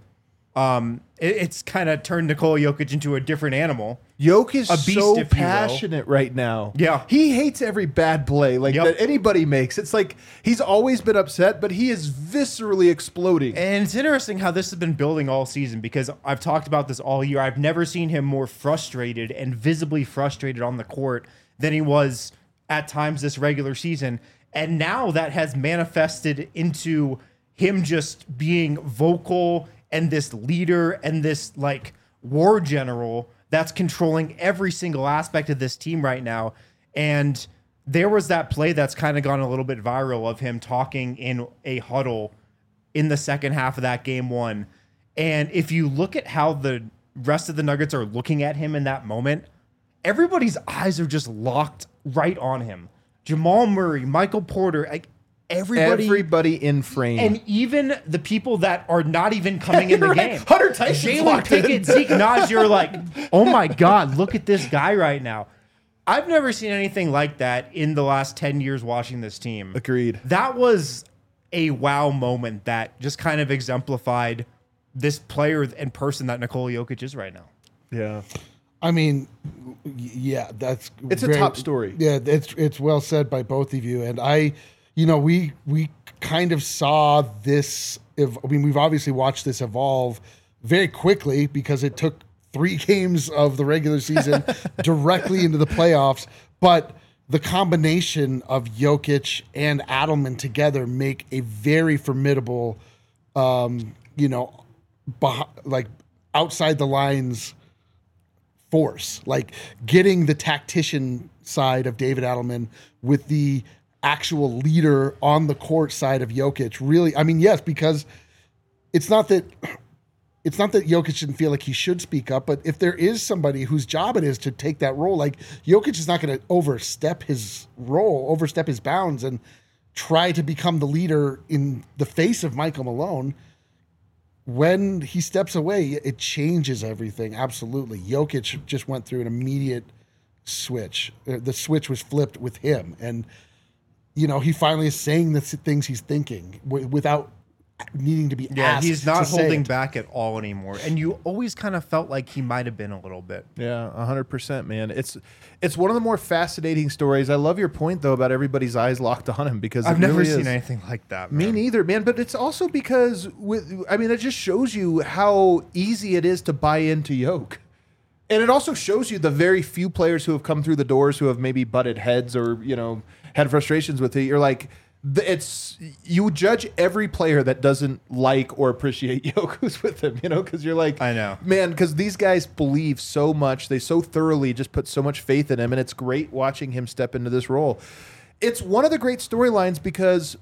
It's kind of turned Nikola Jokic into a different animal. Jokic is A beast, so if you will. passionate right now. Yeah. He hates every bad play that anybody makes. It's like he's always been upset, but he is viscerally exploding. And it's interesting how this has been building all season because I've talked about this all year. I've never seen him more frustrated and visibly frustrated on the court than he was at times this regular season. And now that has manifested into him just being vocal and this leader and this like war general that's controlling every single aspect of this team right now. And there was that play that's kind of gone a little bit viral of him talking in a huddle in the second half of that game one. And if you look at how the rest of the Nuggets are looking at him in that moment, everybody's eyes are just locked right on him. Jamal Murray, Michael Porter, like Everybody in frame. And even the people that are not even coming in the game. Hunter Tyson's Jalen locked in. Pickett, Zeke Naz, you're like, oh my God, look at this guy right now. I've never seen anything like that in the last 10 years watching this team. Agreed. That was a wow moment that just kind of exemplified this player and person that Nikola Jokic is right now. Yeah. I mean, yeah, that's It's a top story. Yeah, it's well said by both of you. And we kind of saw this. We've obviously watched this evolve very quickly because it took 3 games of the regular season directly into the playoffs. But the combination of Jokic and Adelman together make a very formidable, like outside the lines force. Like getting the tactician side of David Adelman with the actual leader on the court side of Jokic. Really, I mean, yes, because it's not that Jokic didn't feel like he should speak up, but if there is somebody whose job it is to take that role, like Jokic is not going to overstep his bounds and try to become the leader in the face of Michael Malone. When he steps away, it changes everything. Absolutely. Jokic just went through an immediate switch. The switch was flipped with him. And, he finally is saying the things he's thinking without needing to be asked. Yeah, he's not to say holding it. back at all anymore. And you always kind of felt like he might have been a little bit. Yeah, 100%, man. It's one of the more fascinating stories. I love your point, though, about everybody's eyes locked on him because I've it never really seen is. anything like that. Me Man. neither, man. But it's also because it just shows you how easy it is to buy into Yoke. And it also shows you the very few players who have come through the doors who have maybe butted heads or, had frustrations with it. You're like, you judge every player that doesn't like or appreciate Yoke who's with him, because you're like, I know. man, because these guys believe so much. They so thoroughly just put so much faith in him. And it's great watching him step into this role. It's one of the great storylines because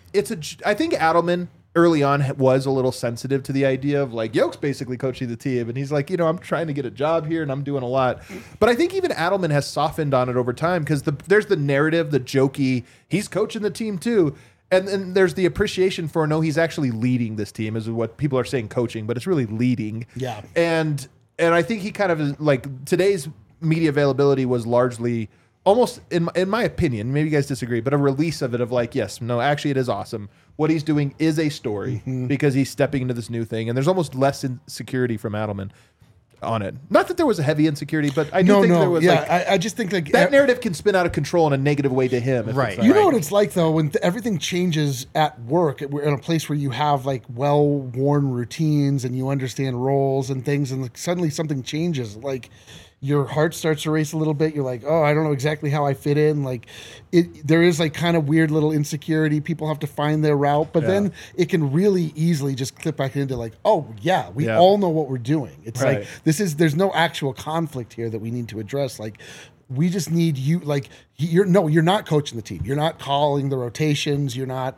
I think Adelman early on was a little sensitive to the idea of like Yoke's basically coaching the team. And he's like, I'm trying to get a job here and I'm doing a lot. But I think even Adelman has softened on it over time because there's the narrative, the jokey, he's coaching the team too. And then there's the appreciation for, no, he's actually leading this team is what people are saying coaching, but it's really leading. Yeah. And I think he kind of is like today's media availability was largely almost, in my opinion, maybe you guys disagree, but a release of it of like, yes, no, actually it is awesome. What he's doing is a story because he's stepping into this new thing. And there's almost less insecurity from Adelman on it. Not that there was a heavy insecurity, but I do think there was I just think like that narrative can spin out of control in a negative way to him. if Right. it's not You know what it's like though when everything changes at work. We're in a place where you have like well-worn routines and you understand roles and things, and like, suddenly something changes. Like your heart starts to race a little bit. You're like, oh, I don't know exactly how I fit in. Like there is like kind of weird little insecurity. People have to find their route, but then it can really easily just clip back into like, oh yeah, we all know what we're doing. It's Right. like there's no actual conflict here that we need to address. Like we just need you. Like you're not coaching the team. You're not calling the rotations. You're not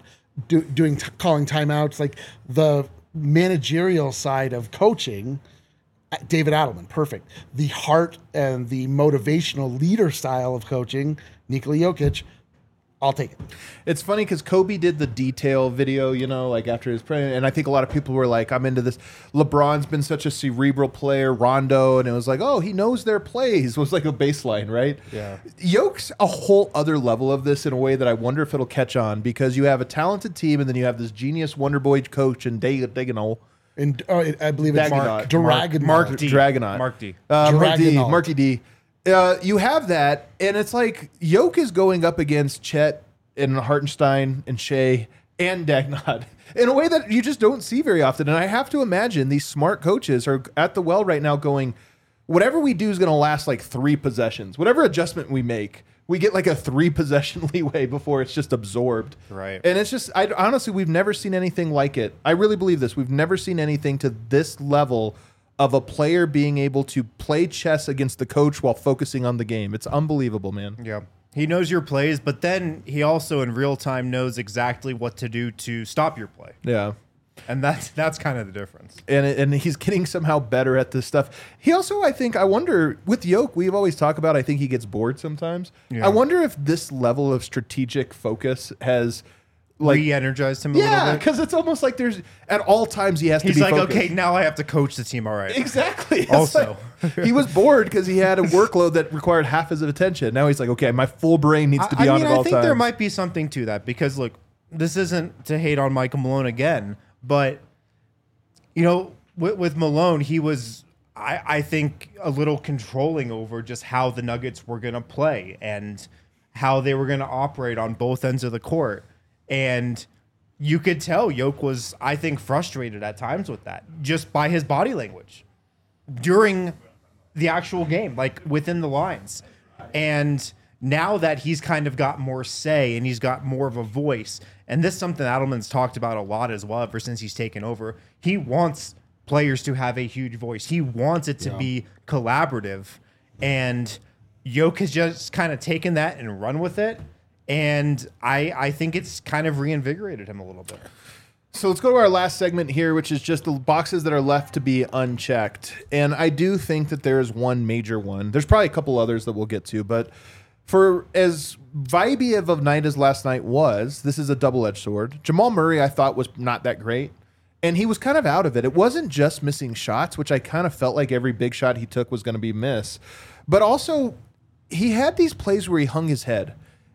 calling timeouts. Like the managerial side of coaching. David Adelman, perfect. The heart and the motivational leader style of coaching, Nikola Jokic, I'll take it. It's funny because Kobe did the detail video, like after his prayer, and I think a lot of people were like, I'm into this. LeBron's been such a cerebral player, Rondo, and it was like, oh, he knows their plays was like a baseline, right? Yeah. Yoke's a whole other level of this in a way that I wonder if it'll catch on because you have a talented team and then you have this genius Wonder Boy coach and Daganol. And I believe it's Dagonaut. Dragonaut. Mark D. Dragonaut. Mark D. Dragonaut. Marky D. You have that, and it's like Yoke is going up against Chet and Hartenstein and Shea and Dagnott in a way that you just don't see very often. And I have to imagine these smart coaches are at the well right now going, whatever we do is going to last like 3 possessions. Whatever adjustment we make, we get like a 3 possession leeway before it's just absorbed. Right. And it's just, honestly, we've never seen anything like it. I really believe this. We've never seen anything to this level of a player being able to play chess against the coach while focusing on the game. It's unbelievable, man. Yeah. He knows your plays, but then he also in real time knows exactly what to do to stop your play. Yeah. And that's kind of the difference. And he's getting somehow better at this stuff. He also, I wonder, with Yoke, we've always talked about, I think he gets bored sometimes. Yeah. I wonder if this level of strategic focus has like re-energized him a little yeah, bit. because it's almost like there's at all times he has to He's be like, focused. okay, now I have to coach the team. All right. Exactly. It's Also. like, he was bored because he had a workload that required half his attention. Now he's like, okay, my full brain needs to be on at all I think times. there might be something to that because look, this isn't to hate on Michael Malone again, but with Malone, he was, I think, a little controlling over just how the Nuggets were going to play and how they were going to operate on both ends of the court. And you could tell Yoke was, I think, frustrated at times with that, just by his body language during the actual game, like within the lines. And now that he's kind of got more say and he's got more of a voice, and this is something Adelman's talked about a lot as well ever since he's taken over, he wants players to have a huge voice. He wants it to be collaborative. And Yoke has just kind of taken that and run with it. And I think it's kind of reinvigorated him a little bit. So let's go to our last segment here, which is just the boxes that are left to be unchecked. And I do think that there is one major one. There's probably a couple others that we'll get to, but for as vibey of a night as last night was, this is a double-edged sword. Jamal Murray, I thought, was not that great. And he was kind of out of it. It wasn't just missing shots, which I kind of felt like every big shot he took was going to be miss. But also, he had these plays where he hung his head.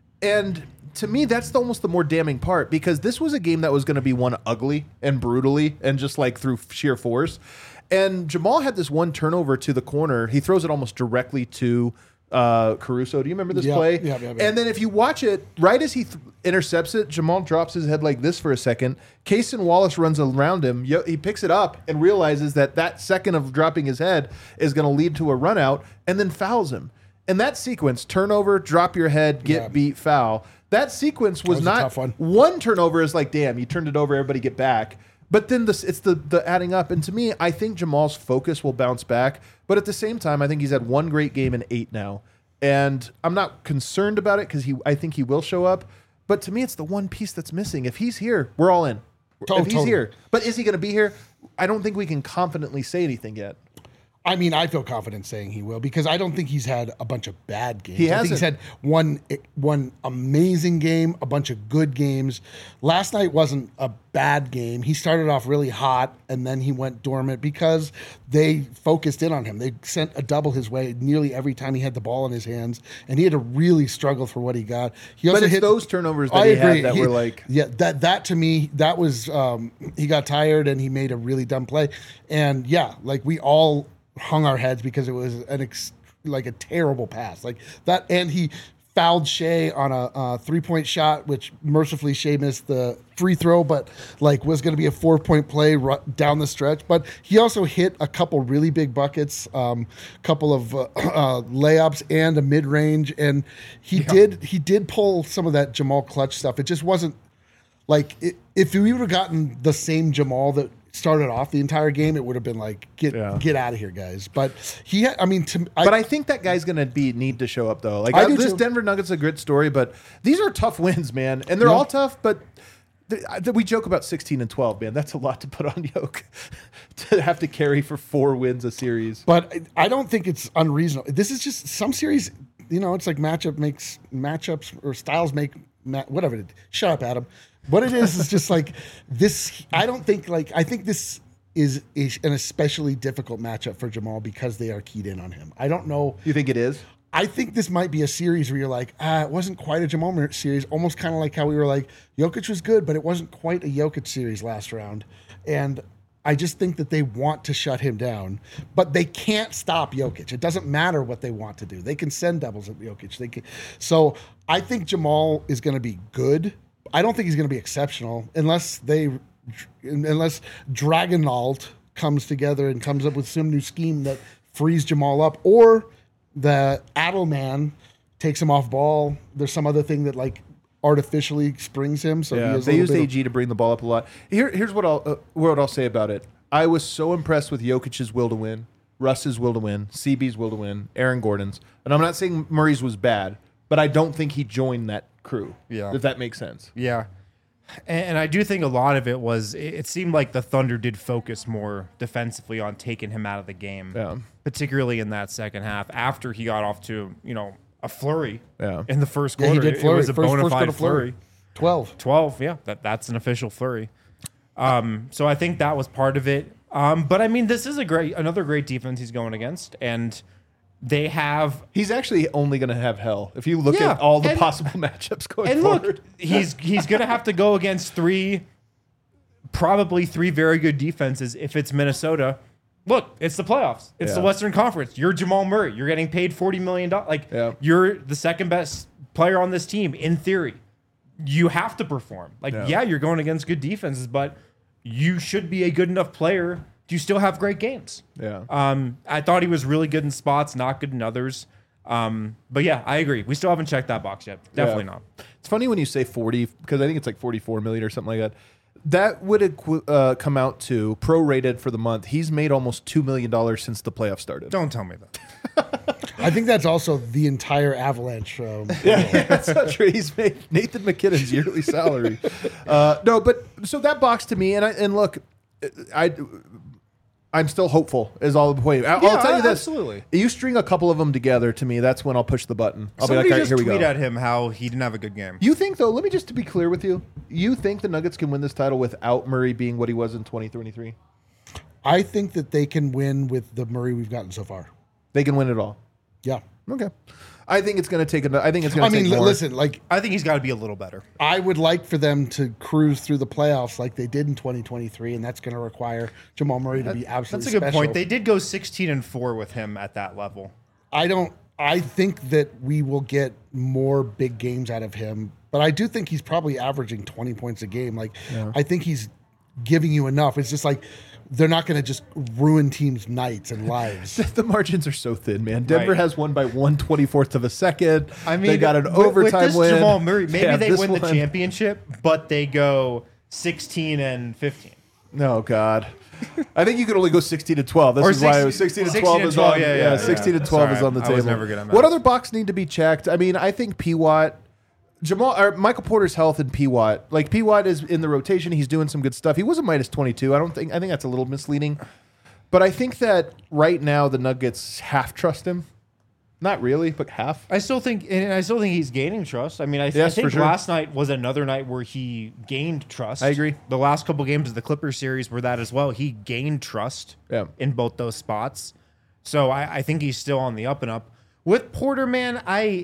And to me, that's almost the more damning part, because this was a game that was going to be won ugly and brutally and just like through sheer force. And Jamal had this one turnover to the corner. He throws it almost directly to Caruso. Do you remember this play? Yeah. And then if you watch it, right as he intercepts it, Jamal drops his head like this for a second. Kaysen Wallace runs around him. He picks it up and realizes that second of dropping his head is going to lead to a run out, and then fouls him. And that sequence, turnover, drop your head, get beat, foul. That sequence was a not tough one. One turnover is like, damn, you turned it over, everybody get back. But then it's the adding up. And to me, I think Jamal's focus will bounce back. But at the same time, I think he's had one great game in 8 now. And I'm not concerned about it because I think he will show up. But to me, it's the one piece that's missing. If he's here, we're all in. If he's here. But is he going to be here? I don't think we can confidently say anything yet. I mean, I feel confident saying he will because I don't think he's had a bunch of bad games. He I think he's hasn't. had one amazing game, a bunch of good games. Last night wasn't a bad game. He started off really hot and then he went dormant because they focused in on him. They sent a double his way nearly every time he had the ball in his hands, and he had to really struggle for what he got. He also But it's hit those turnovers that he had that were like... Yeah, that to me, that was, he got tired and he made a really dumb play. And yeah, like we all hung our heads because it was like a terrible pass like that, and he fouled Shea on a 3-point shot, which mercifully Shea missed the free throw, but like was going to be a 4-point play down the stretch. But he also hit a couple really big buckets, couple of layups and a mid range, and he did pull some of that Jamal clutch stuff. It just wasn't like if we would have gotten the same Jamal that started off the entire game, it would have been like get out of here, guys. But I think that guy's gonna need to show up though. Like this Denver Nuggets is a good story, but these are tough wins, man, and they're all tough. But we joke about 16 and 12, man. That's a lot to put on Yoke to have to carry for 4 wins a series. But I don't think it's unreasonable. This is just some series. It's like matchups or styles make whatever. Shut up, Adam. What it is just like this. I think this is an especially difficult matchup for Jamal because they are keyed in on him. I don't know. You think it is? I think this might be a series where you're like, it wasn't quite a Jamal Murray series, almost kind of like how we were like, Jokic was good, but it wasn't quite a Jokic series last round. And I just think that they want to shut him down, but they can't stop Jokic. It doesn't matter what they want to do. They can send doubles at Jokic. So I think Jamal is going to be good. I don't think he's going to be exceptional unless Dragonalt comes together and comes up with some new scheme that frees Jamal up, or the Adelman takes him off ball. There's some other thing that like artificially springs him. So they used AG to bring the ball up a lot. Here's what I'll say about it. I was so impressed with Jokic's will to win, Russ's will to win, CB's will to win, Aaron Gordon's, and I'm not saying Murray's was bad, but I don't think he joined that crew. Yeah, if that makes sense. Yeah. And I do think a lot of it was, it seemed like the Thunder did focus more defensively on taking him out of the game, particularly in that second half after he got off to, a flurry in the first quarter. He did flurry. It was a bona fide flurry. 12. 12, yeah, that's an official flurry. So I think that was part of it. But I mean, this is another great defense he's going against, and they have. He's actually only going to have hell if you look Yeah, at all the and- possible matchups going And forward. look, he's going to have to go against probably three very good defenses. If it's Minnesota, look, it's the playoffs. It's the Yeah. Western Conference. You're Jamal Murray. You're getting paid $40 million. Like Yeah. you're the second best player on this team in theory. You have to perform. Like yeah, you're going against good defenses, but you should be a good enough player. You still have great games. Yeah. I thought he was really good in spots, not good in others. But yeah, I agree. We still haven't checked that box yet. Definitely not. It's funny when you say 40, because I think it's like 44 million or something like that. That would come out to prorated for the month. He's made almost $2 million since the playoffs started. Don't tell me that. I think that's also the entire Avalanche. Yeah, that's not true. He's made Nathan McKinnon's yearly salary. No, but so that box to me, and look, I'm still hopeful. Is all the point. I'll tell you this: absolutely. You string a couple of them together, to me, that's when I'll push the button. I'll Somebody be like, all right, just here we tweet go. at him how he didn't have a good game. You think though? Let me just to be clear with you. You think the Nuggets can win this title without Murray being what he was in 2023? I think that they can win with the Murray we've gotten so far. They can win it all. Yeah. Okay. I think it's going to take. I think it's going I to take mean, more. listen, like I think he's got to be a little better. I would like for them to cruise through the playoffs like they did in 2023, and that's going to require Jamal Murray to be absolutely That's a good special. point. They did go 16-4 with him at that level. I think that we will get more big games out of him, but I do think he's probably averaging 20 points a game. Like, I think he's giving you enough. It's just like they're not going to just ruin teams' nights and lives. The margins are so thin, man. Denver Right. has won by 1/24th of a second. I mean, they got an with overtime this win. Jamal Murray, maybe Yeah, they this win the one- championship, but they go 16-15. No, God. I think you could only go 16-12. This Or is why it was 16 16-12 is on. 16-12, yeah. 16-12 Sorry, is on the I table. was never good at math. What other box need to be checked? I mean, I think P-Watt, Michael Porter's health and P-Watt. Like P-Watt is in the rotation. He's doing some good stuff. He was a minus 22. I think that's a little misleading. But I think that right now the Nuggets half trust him. Not really, but half. I still think he's gaining trust. I mean, I Yes, think for sure. last night was another night where he gained trust. I agree. The last couple games of the Clippers series were that as well. He gained trust in both those spots. So I think he's still on the up and up. With Porter, man, I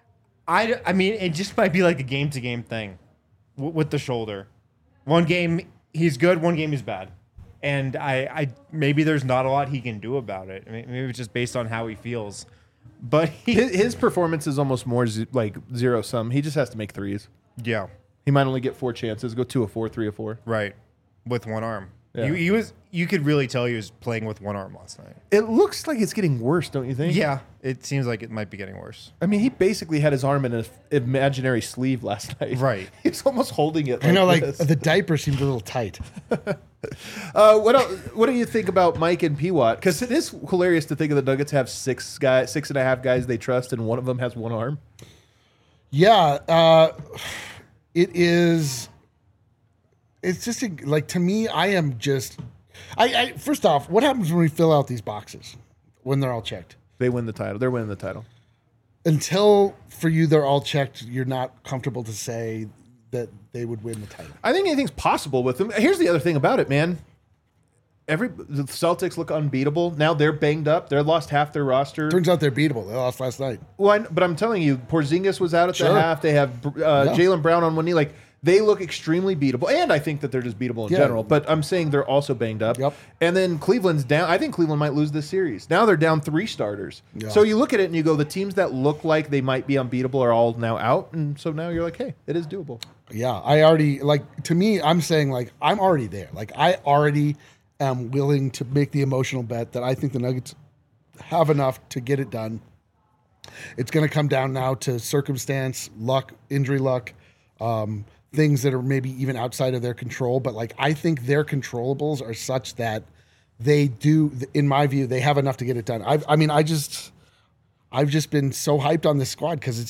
mean, it just might be like a game-to-game thing with the shoulder. One game he's good, one game he's bad. And I maybe there's not a lot he can do about it. I mean, maybe it's just based on how he feels. But His performance is almost more like zero sum. He just has to make threes. yeah. He might only get 4 chances. Go 2 of 4, 3 of 4. Right, with one arm. Yeah. You could really tell he was playing with one arm last night. It looks like it's getting worse, don't you think? Yeah, it seems like it might be getting worse. I mean, he basically had his arm in an imaginary sleeve last night. Right. He's almost holding it. I know, like this. the diaper seemed a little tight. What do you think about Mike and P-Watt? Because it is hilarious to think of the Nuggets have 6.5 guys they trust, and one of them has one arm. Yeah, it is. It's just like, to me, I am just. I first off, what happens when we fill out these boxes when they're all checked? They win the title. They're winning the title. Until for you they're all checked, you're not comfortable to say that they would win the title. I think anything's possible with them. Here's the other thing about it, man. The Celtics look unbeatable. Now they're banged up. They lost half their roster. Turns out they're beatable. They lost last night. Well, but I'm telling you, Porzingis was out at the Sure. half. They have Jaylen Brown on one knee. Like, they look extremely beatable. And I think that they're just beatable in Yeah. general. But I'm saying they're also banged up. Yep. And then Cleveland's down. I think Cleveland might lose this series. Now they're down 3 starters. Yeah. So you look at it and you go, the teams that look like they might be unbeatable are all now out. And so now you're like, hey, it is doable. Yeah, I already, like, to me, I'm saying, like, I'm already there. Like, I already am willing to make the emotional bet that I think the Nuggets have enough to get it done. It's going to come down now to circumstance, luck, injury luck, things that are maybe even outside of their control. But, like, I think their controllables are such that they do, in my view, they have enough to get it done. I've just been so hyped on this squad because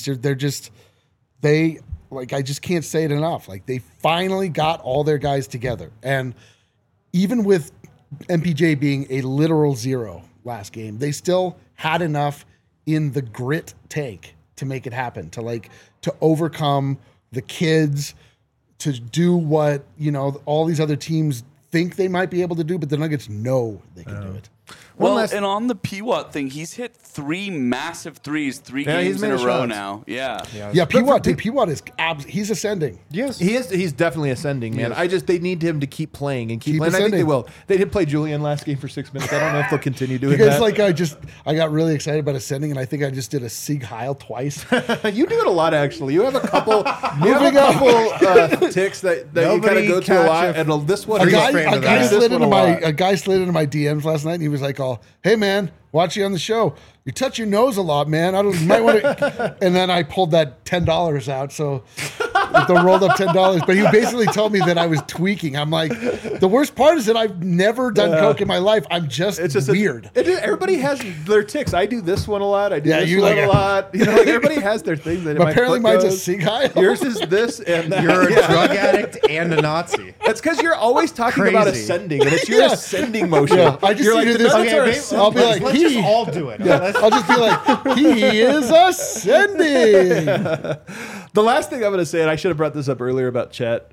I just can't say it enough. Like, they finally got all their guys together. And even with MPJ being a literal zero last game, they still had enough in the grit tank to make it happen, to overcome the kids, to do what, all these other teams think they might be able to do, but the Nuggets know they can do it. Well, and on the P-Watt thing, he's hit 3 massive threes, 3 Yeah, games he's in made a row shots. now. Yeah. Yeah, P-Watt is he's ascending. Yes. He's definitely ascending, man. They need him to keep playing and keep playing. I think ascending. they will. They did play Julian last game for 6 minutes. I don't know if they'll continue doing Because that. I got really excited about ascending, and I think I just did a Sieg Heil twice. You do it a lot, actually. You have a couple. Moving on. Ticks that you kind Nobody of go to a catch lot, a and this one. A Freeze guy, frame a of guy that. slid This one into a my lot. a guy slid into my DMs last night, and he was like, "Oh, hey man, watch you on the show. You touch your nose a lot, man. You might want to." And then I pulled that $10 out, so the rolled up $10. But he basically told me that I was tweaking. I'm like, the worst part is that I've never done coke in my life. I'm just, weird. Everybody has their ticks. I do this one a lot. I do Yeah, this you one like a a- lot. Everybody has their things. That But apparently my foot mine's a goes. Sieg Heil. Yours is this and that. You're a Yeah. drug addict and a Nazi. That's because you're always talking about Crazy. ascending, and it's your Yeah. ascending motion. Yeah, I just you're see like, you the this- Nuggets okay, are maybe- ascending. I'll be like, Let's just all do it. Let's- I'll just be like, he is ascending. The last thing I'm going to say, and I should have brought this up earlier about Chet.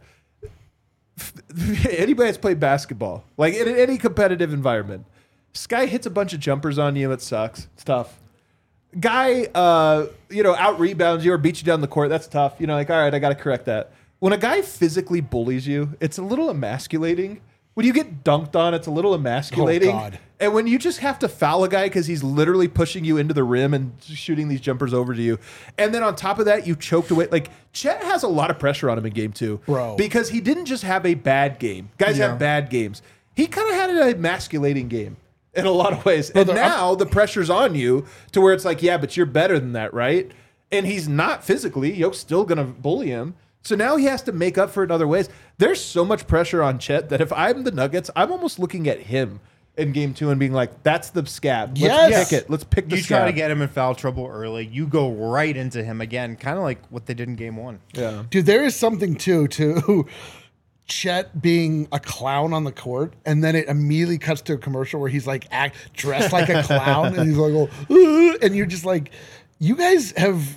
Anybody that's played basketball, like in any competitive environment, this guy hits a bunch of jumpers on you. It sucks. It's tough. Guy, out rebounds you or beats you down the court. That's tough. Like, all right, I got to correct that. When a guy physically bullies you, it's a little emasculating. When you get dunked on, it's a little emasculating. Oh, God. And when you just have to foul a guy because he's literally pushing you into the rim and shooting these jumpers over to you, and then on top of that, you choked away. Like, Chet has a lot of pressure on him in game 2. Bro. Because he didn't just have a bad game. Guys have bad games. He kind of had an emasculating game in a lot of ways. And now the pressure's on you to where it's like, yeah, but you're better than that, right? And he's not physically. Yoke's still going to bully him. So now he has to make up for it in other ways. There's so much pressure on Chet that if I'm the Nuggets, I'm almost looking at him in game 2 and being like, that's the scab. Let's Yes. pick it. Let's pick the You scab. try to get him in foul trouble early. You go right into him again, kind of like what they did in game 1. Yeah. Dude, there is something too to Chet being a clown on the court, and then it immediately cuts to a commercial where he's like dressed like a clown, and he's like, "Oh," and you're just like, you guys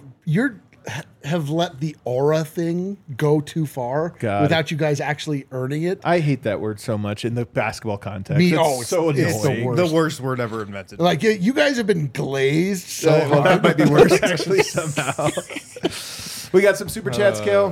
have let the aura thing go too far God. without you guys actually earning it. I hate that word so much in the basketball context. Me- it's oh, so annoying. it's the worst. The worst word ever invented. Like you guys have been glazed so Well, that hard. might be worse actually somehow. We got some super chats, Kale.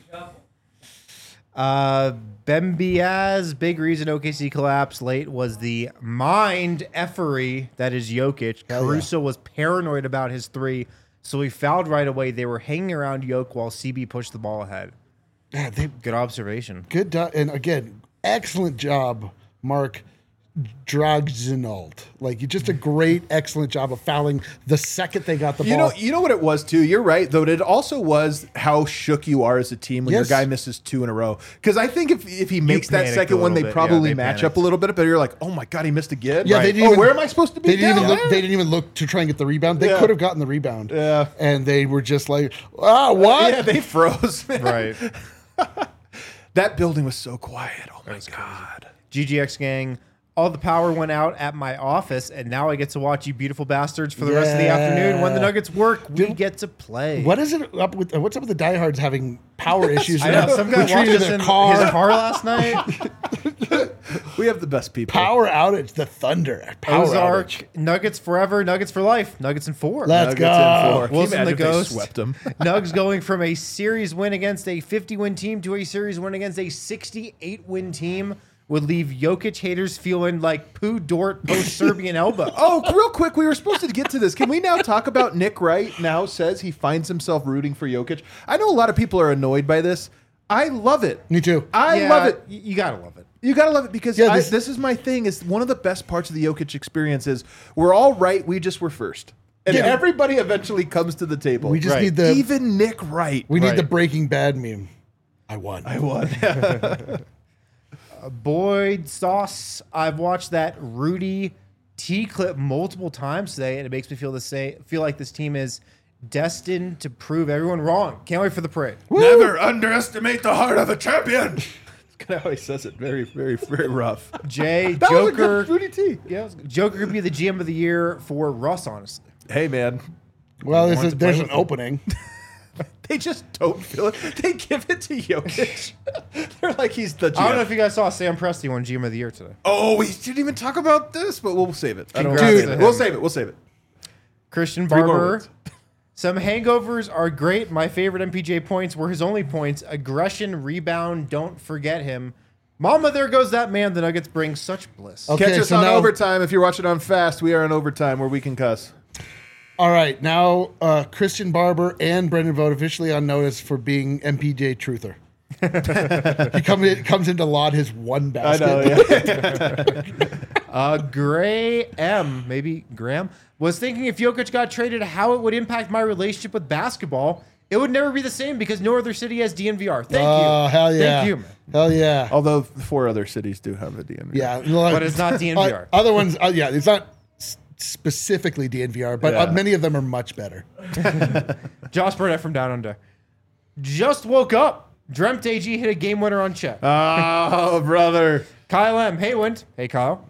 Ben Biaz, big reason OKC collapsed late was the mind effery that is Jokic. Caruso was paranoid about his 3, so he fouled right away. They were hanging around Jokic while CB pushed the ball ahead. Yeah, Good observation. good and again, excellent job, Mark Dragsinault. Like, you just a great, excellent job of fouling the second they got the ball. You know what it was too. You're right, though. It also was how shook you are as a team when your Yes. guy misses 2 in a row. Because I think if he makes that panicked second a one, they little bit. probably Yeah, they match panicked. up a little bit. But you're like, oh my god, he missed again. Yeah, Right. they didn't even, where am I supposed to be? They didn't even down look. there? They didn't even look to try and get the rebound. They Yeah. could have gotten the rebound. Yeah. and they were just like, what? Yeah, they froze. Man. Right. That building was so quiet. Oh my god. GGX gang, all the power went out at my office, and now I get to watch you beautiful bastards for the rest of the afternoon. When the Nuggets work, we get to play. What is it up with? What's up with the diehards having power issues? I know, some guy watched Retreating us their in his car last night. We have the best people. Power outage. The Thunder. Power Ozark, outage. Nuggets forever, Nuggets for life, Nuggets in 4. Let's Nuggets in go. 4. Can you Wilson imagine the if they Ghost. swept them. Nugs going from a series win against a 50-win team to a series win against a 68-win team would leave Jokic haters feeling like Pooh Dort post-Serbian elbow. Oh, real quick, we were supposed to get to this. Can we now talk about Nick Wright now says he finds himself rooting for Jokic? I know a lot of people are annoyed by this. I love it. Me too. I Yeah, love it. You gotta love it. You gotta love it because Yeah, this is my thing. Is one of the best parts of the Jokic experience is we're all right. We just were first, and Yeah. everybody eventually comes to the table. We just Right. need the. even Nick Wright. we need Right. the Breaking Bad meme. I won. won. Boyd Sauce, I've watched that Rudy T clip multiple times today, and it makes me feel like this team is destined to prove everyone wrong. Can't wait for the parade. Never underestimate the heart of a champion. That's kind of how he says it. Very, very, very rough. Jay, That was a Joker, good Rudy T. yeah, Joker could be the GM of the year for Russ, honestly. Hey man, Well, Want to play there's an with them. opening. They just don't feel it. They give it to Jokic. They're like, he's the GM. I don't know if you guys saw Sam Presti won GM of the Year today. Oh, we didn't even talk about this, but we'll save it. Congrats Dude, to him. we'll save it. Christian 3 more Barber. words. Some hangovers are great. My favorite MPJ points were his only points. Aggression, rebound, don't forget him. Mama, there goes that man. The Nuggets bring such bliss. Okay, Catch us so on now- Overtime. If you're watching on Fast, we are on Overtime where we can cuss. All right, now Christian Barber and Brendan Vogt officially on notice for being MPJ truther. He comes in to laud his one I basket. know, yeah. Gray M, maybe Graham, was thinking if Jokic got traded, how it would impact my relationship with basketball. It would never be the same because no other city has DNVR. Thank you. Oh, hell yeah. Thank you, man. Hell yeah. Although 4 other cities do have a DMV. Yeah. But it's not DNVR. Other ones, yeah, it's not specifically DNVR, but Yeah. many of them are much better. Josh Burnett from Down Under. Just woke up. Dreamt AG hit a game winner on Chet. Oh, brother. Kyle M. Hey, Wind. Hey, Kyle.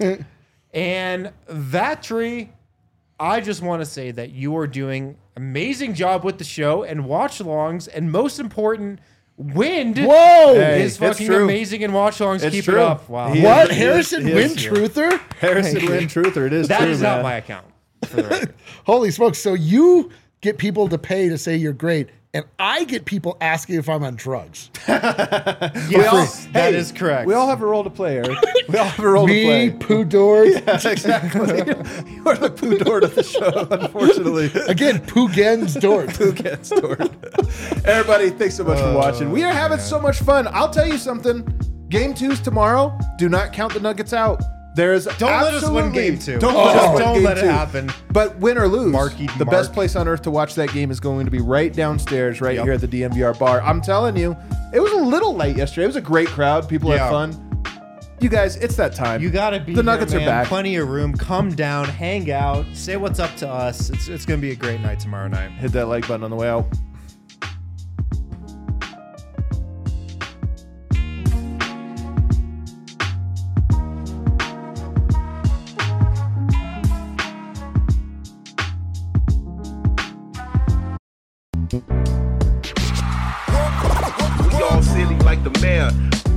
And that tree, I just want to say that you are doing amazing job with the show and watch-alongs, and most important, Wind Whoa! Hey, is it's fucking true. amazing in watch-alongs. It's Keep true. it up. Wow. He What? is- Harrison he is- Wynn he is. truther? Harrison Wynn Truther. It is That true, is man. not my account. For the record. Holy smokes. So you get people to pay to say you're great, and I get people asking if I'm on drugs. Yes, that is correct. We all have a role to play, Eric. We all have a role Me, to play. Pooh Dord. Yes, exactly. You are the Pooh Dord of the show, unfortunately. Again, Pooh Gens Dord. Who gets Dord? Everybody, thanks so much for watching. We are having so much fun. I'll tell you something. Game 2's tomorrow. Do not count the Nuggets out. There's Don't let us win absolutely- game 2. Don't let us win Don't game let it 2. happen. But win or lose, Marky the Mark. best place on earth to watch that game is going to be right downstairs, right Yep. here at the DMVR bar. I'm telling you, it was a little late yesterday. It was a great crowd. People had Yeah. fun. You guys, it's that time. You gotta be. The Nuggets here, are man. back. Plenty of room. Come down, hang out, say what's up to us. It's gonna be a great night tomorrow night. Hit that like button on the way out. We all silly like the mayor.